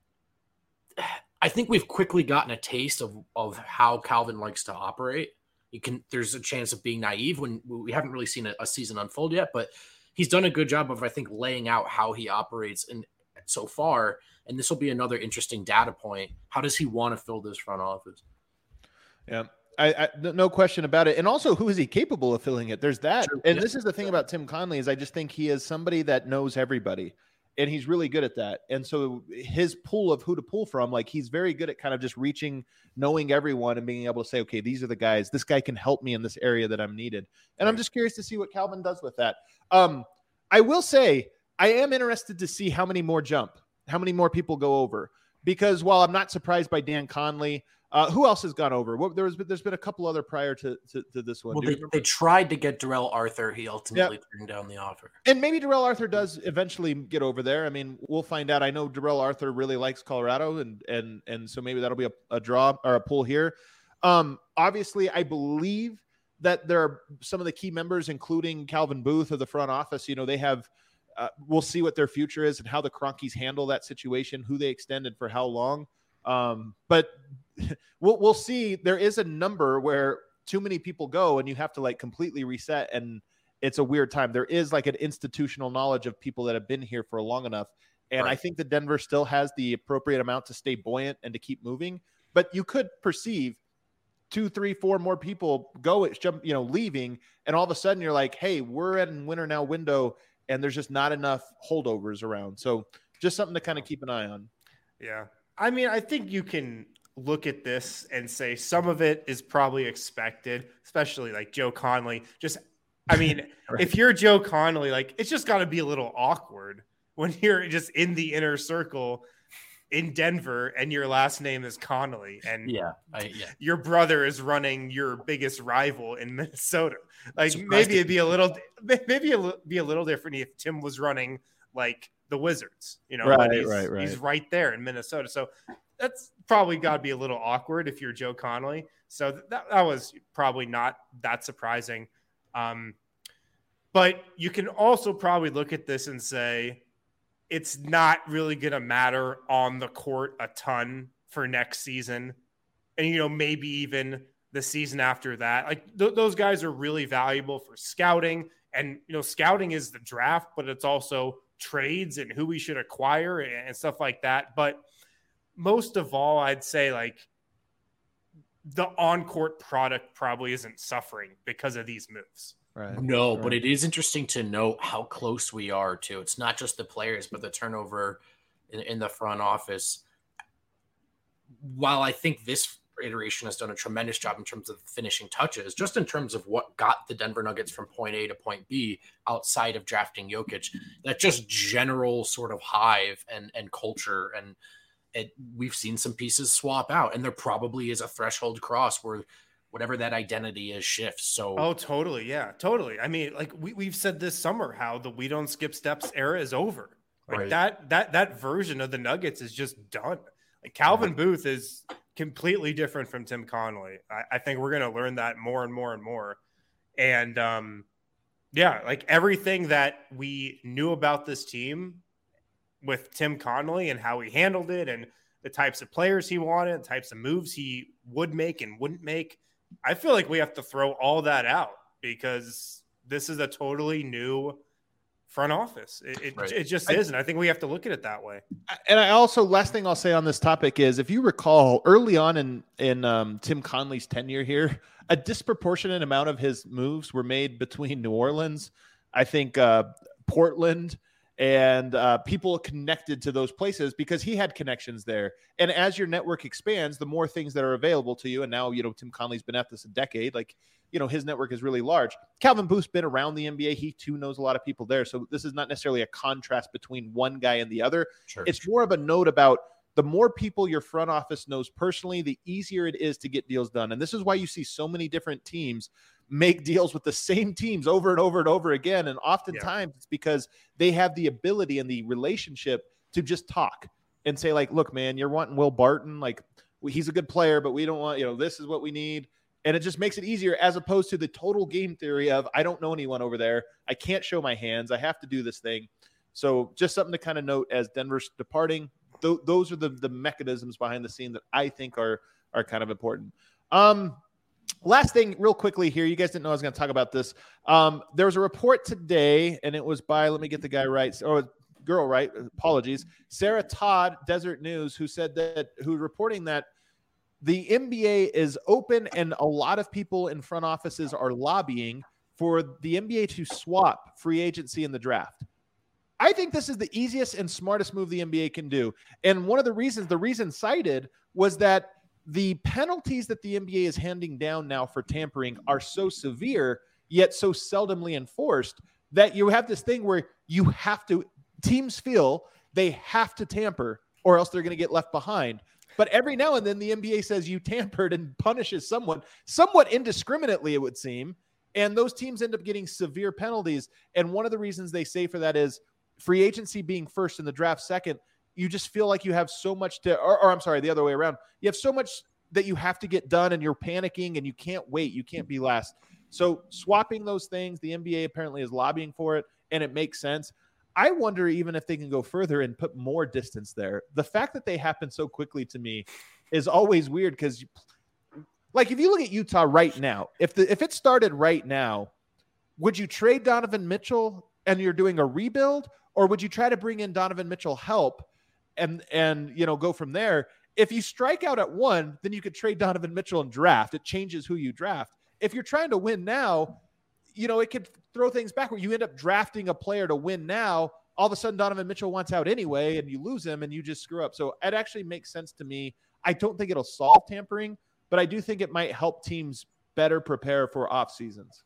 I think we've quickly gotten a taste of, of how Calvin likes to operate. You can, there's a chance of being naive when we haven't really seen a, a season unfold yet, but he's done a good job of, I think, laying out how he operates and so far. And this will be another interesting data point. How does he want to fill this front office? Yeah, I, I no question about it. And also, who is he capable of filling it? There's that. True. And yeah. This is the thing about Tim Connelly is I just think he is somebody that knows everybody. And he's really good at that. And so his pool of who to pull from, like, he's very good at kind of just reaching, knowing everyone and being able to say, okay, these are the guys. This guy can help me in this area that I'm needed. And right. I'm just curious to see what Calvin does with that. Um, I will say I am interested to see how many more jump, how many more people go over. Because while I'm not surprised by Dan Connelly, uh, who else has gone over? Well, there was, there's been a couple other prior to, to, to this one. Well, they, they tried to get Darrell Arthur. He ultimately yep. turned down the offer. And maybe Darrell Arthur does eventually get over there. I mean, we'll find out. I know Darrell Arthur really likes Colorado, and and and so maybe that'll be a, a draw or a pull here. Um, obviously, I believe that there are some of the key members, including Calvin Booth of the front office. You know, they have. Uh, we'll see what their future is and how the Cronkies handle that situation, who they extended for how long. Um, but we'll we'll see. There is a number where too many people go and you have to like completely reset, and it's a weird time. There is like an institutional knowledge of people that have been here for long enough. And right. I think that Denver still has the appropriate amount to stay buoyant and to keep moving, but you could perceive two, three, four more people go, jump, you know, leaving. And all of a sudden you're like, hey, we're in winter now window, and there's just not enough holdovers around. So just something to kind of keep an eye on. Yeah. I mean, I think you can look at this and say some of it is probably expected, especially like Joe Connelly. Just, I mean, right. if you're Joe Connelly, like, it's just got to be a little awkward when you're just in the inner circle in Denver and your last name is Connelly, and yeah, I, yeah. your brother is running your biggest rival in Minnesota. Like, maybe it'd be a little, maybe it'd be a little different if Tim was running like the Wizards, you know, right, he's, right, right. he's right there in Minnesota. So that's probably got to be a little awkward if you're Joe Connelly. So that, that was probably not that surprising. Um, but you can also probably look at this and say, it's not really going to matter on the court a ton for next season. And, you know, maybe even the season after that. Like, th- those guys are really valuable for scouting. And, you know, scouting is the draft, but it's also trades and who we should acquire and, and stuff like that. But most of all, I'd say, like, the on-court product probably isn't suffering because of these moves. Right. No, right. But it is interesting to note how close we are to. It's not just the players, but the turnover in, in the front office. While I think this iteration has done a tremendous job in terms of finishing touches, just in terms of what got the Denver Nuggets from point A to point B outside of drafting Jokic. That just general sort of hive and and culture, and it, we've seen some pieces swap out, and there probably is a threshold cross where whatever that identity is shifts. So oh, totally, yeah, totally. I mean, like we we've said this summer how the we don't skip steps era is over. Like right. that that that version of the Nuggets is just done. Like Calvin yeah. Booth is completely different from Tim Connolly. I, I think we're going to learn that more and more and more. And um, yeah, like everything that we knew about this team with Tim Connolly and how he handled it and the types of players he wanted, the types of moves he would make and wouldn't make, I feel like we have to throw all that out because this is a totally new front office. It, it, right. it just I, is. And I think we have to look at it that way. And I also, last thing I'll say on this topic is, if you recall early on in, in um, Tim Connolly's tenure here, a disproportionate amount of his moves were made between New Orleans, I think uh, Portland, and uh, people connected to those places because he had connections there. And as your network expands, the more things that are available to you. And now, you know, Tim Connolly's been at this a decade. Like, you know, his network is really large. Calvin Booth's been around the N B A. He too knows a lot of people there. So this is not necessarily a contrast between one guy and the other. Sure. It's more of a note about the more people your front office knows personally, the easier it is to get deals done. And this is why you see so many different teams make deals with the same teams over and over and over again. And oftentimes yeah. it's because they have the ability and the relationship to just talk and say, like, look, man, you're wanting Will Barton. Like, he's a good player, but we don't want, you know, this is what we need. And it just makes it easier as opposed to the total game theory of, I don't know anyone over there. I can't show my hands. I have to do this thing. So just something to kind of note as Denver's departing. Th- those are the, the mechanisms behind the scene that I think are, are kind of important. Um, Last thing real quickly here. You guys didn't know I was going to talk about this. Um, there was a report today, and it was by, let me get the guy right, or girl right, apologies, Sarah Todd, Desert News, who said that, who reporting that the N B A is open and a lot of people in front offices are lobbying for the N B A to swap free agency in the draft. I think this is the easiest and smartest move the N B A can do. And one of the reasons, the reason cited was that the penalties that the N B A is handing down now for tampering are so severe, yet so seldomly enforced, that you have this thing where you have to, teams feel they have to tamper or else they're going to get left behind. But every now and then the N B A says you tampered and punishes someone somewhat indiscriminately, it would seem. And those teams end up getting severe penalties. And one of the reasons they say for that is free agency being first and the draft second. You just feel like you have so much to, or, or I'm sorry, the other way around. You have so much that you have to get done and you're panicking and you can't wait. You can't be last. So swapping those things, the N B A apparently is lobbying for it and it makes sense. I wonder even if they can go further and put more distance there. The fact that they happen so quickly to me is always weird because, like, if you look at Utah right now, if the if it started right now, would you trade Donovan Mitchell and you're doing a rebuild, or would you try to bring in Donovan Mitchell help and and you know go from there? If you strike out at one, then you could trade Donovan Mitchell and draft. It changes who you draft. If you're trying to win now, you know, it could throw things back where you end up drafting a player to win now. All of a sudden, Donovan Mitchell wants out anyway, and you lose him, and you just screw up. So it actually makes sense to me. I don't think it'll solve tampering, but I do think it might help teams better prepare for off seasons.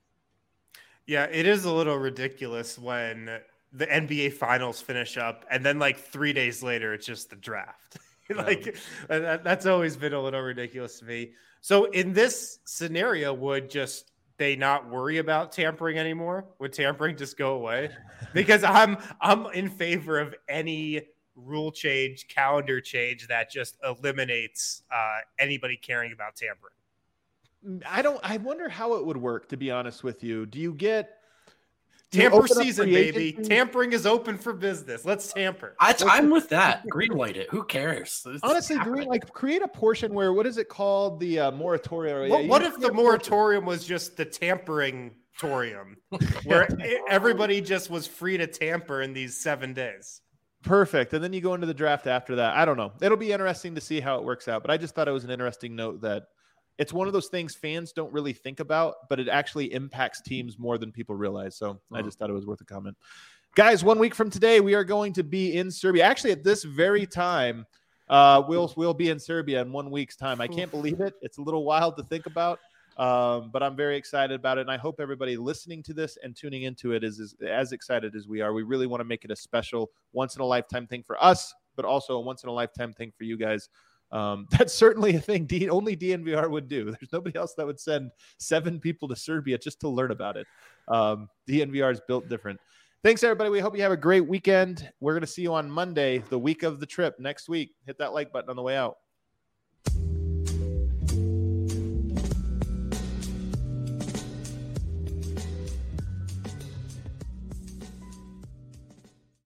Yeah, it is a little ridiculous when the N B A finals finish up, and then like three days later, it's just the draft. like that, that's always been a little ridiculous to me. So in this scenario, would just they not worry about tampering anymore? Would tampering just go away? Because I'm I'm in favor of any rule change, calendar change that just eliminates uh, anybody caring about tampering. I don't. I wonder how it would work. To be honest with you, do you get tamper season, baby? Tampering is open for business. Let's tamper. I, I'm with that. Greenlight it. Who cares? It's Honestly, green like create a portion where what is it called? The uh, moratorium. What, yeah, what if the moratorium was just the tampering torium, where everybody just was free to tamper in these seven days? Perfect. And then you go into the draft after that. I don't know. It'll be interesting to see how it works out. But I just thought it was an interesting note that it's one of those things fans don't really think about, but it actually impacts teams more than people realize. So oh. I just thought it was worth a comment. Guys, one week from today, we are going to be in Serbia. Actually, at this very time, Uh, we'll we'll be in Serbia in one week's time. I can't believe it. It's a little wild to think about, um, but I'm very excited about it, and I hope everybody listening to this and tuning into it is, is as excited as we are. We really want to make it a special, once-in-a-lifetime thing for us, but also a once-in-a-lifetime thing for you guys. Um, that's certainly a thing D, only D N V R would do. There's nobody else that would send seven people to Serbia just to learn about it. Um, D N V R is built different. Thanks, everybody. We hope you have a great weekend. We're going to see you on Monday, the week of the trip, next week. Hit that like button on the way out.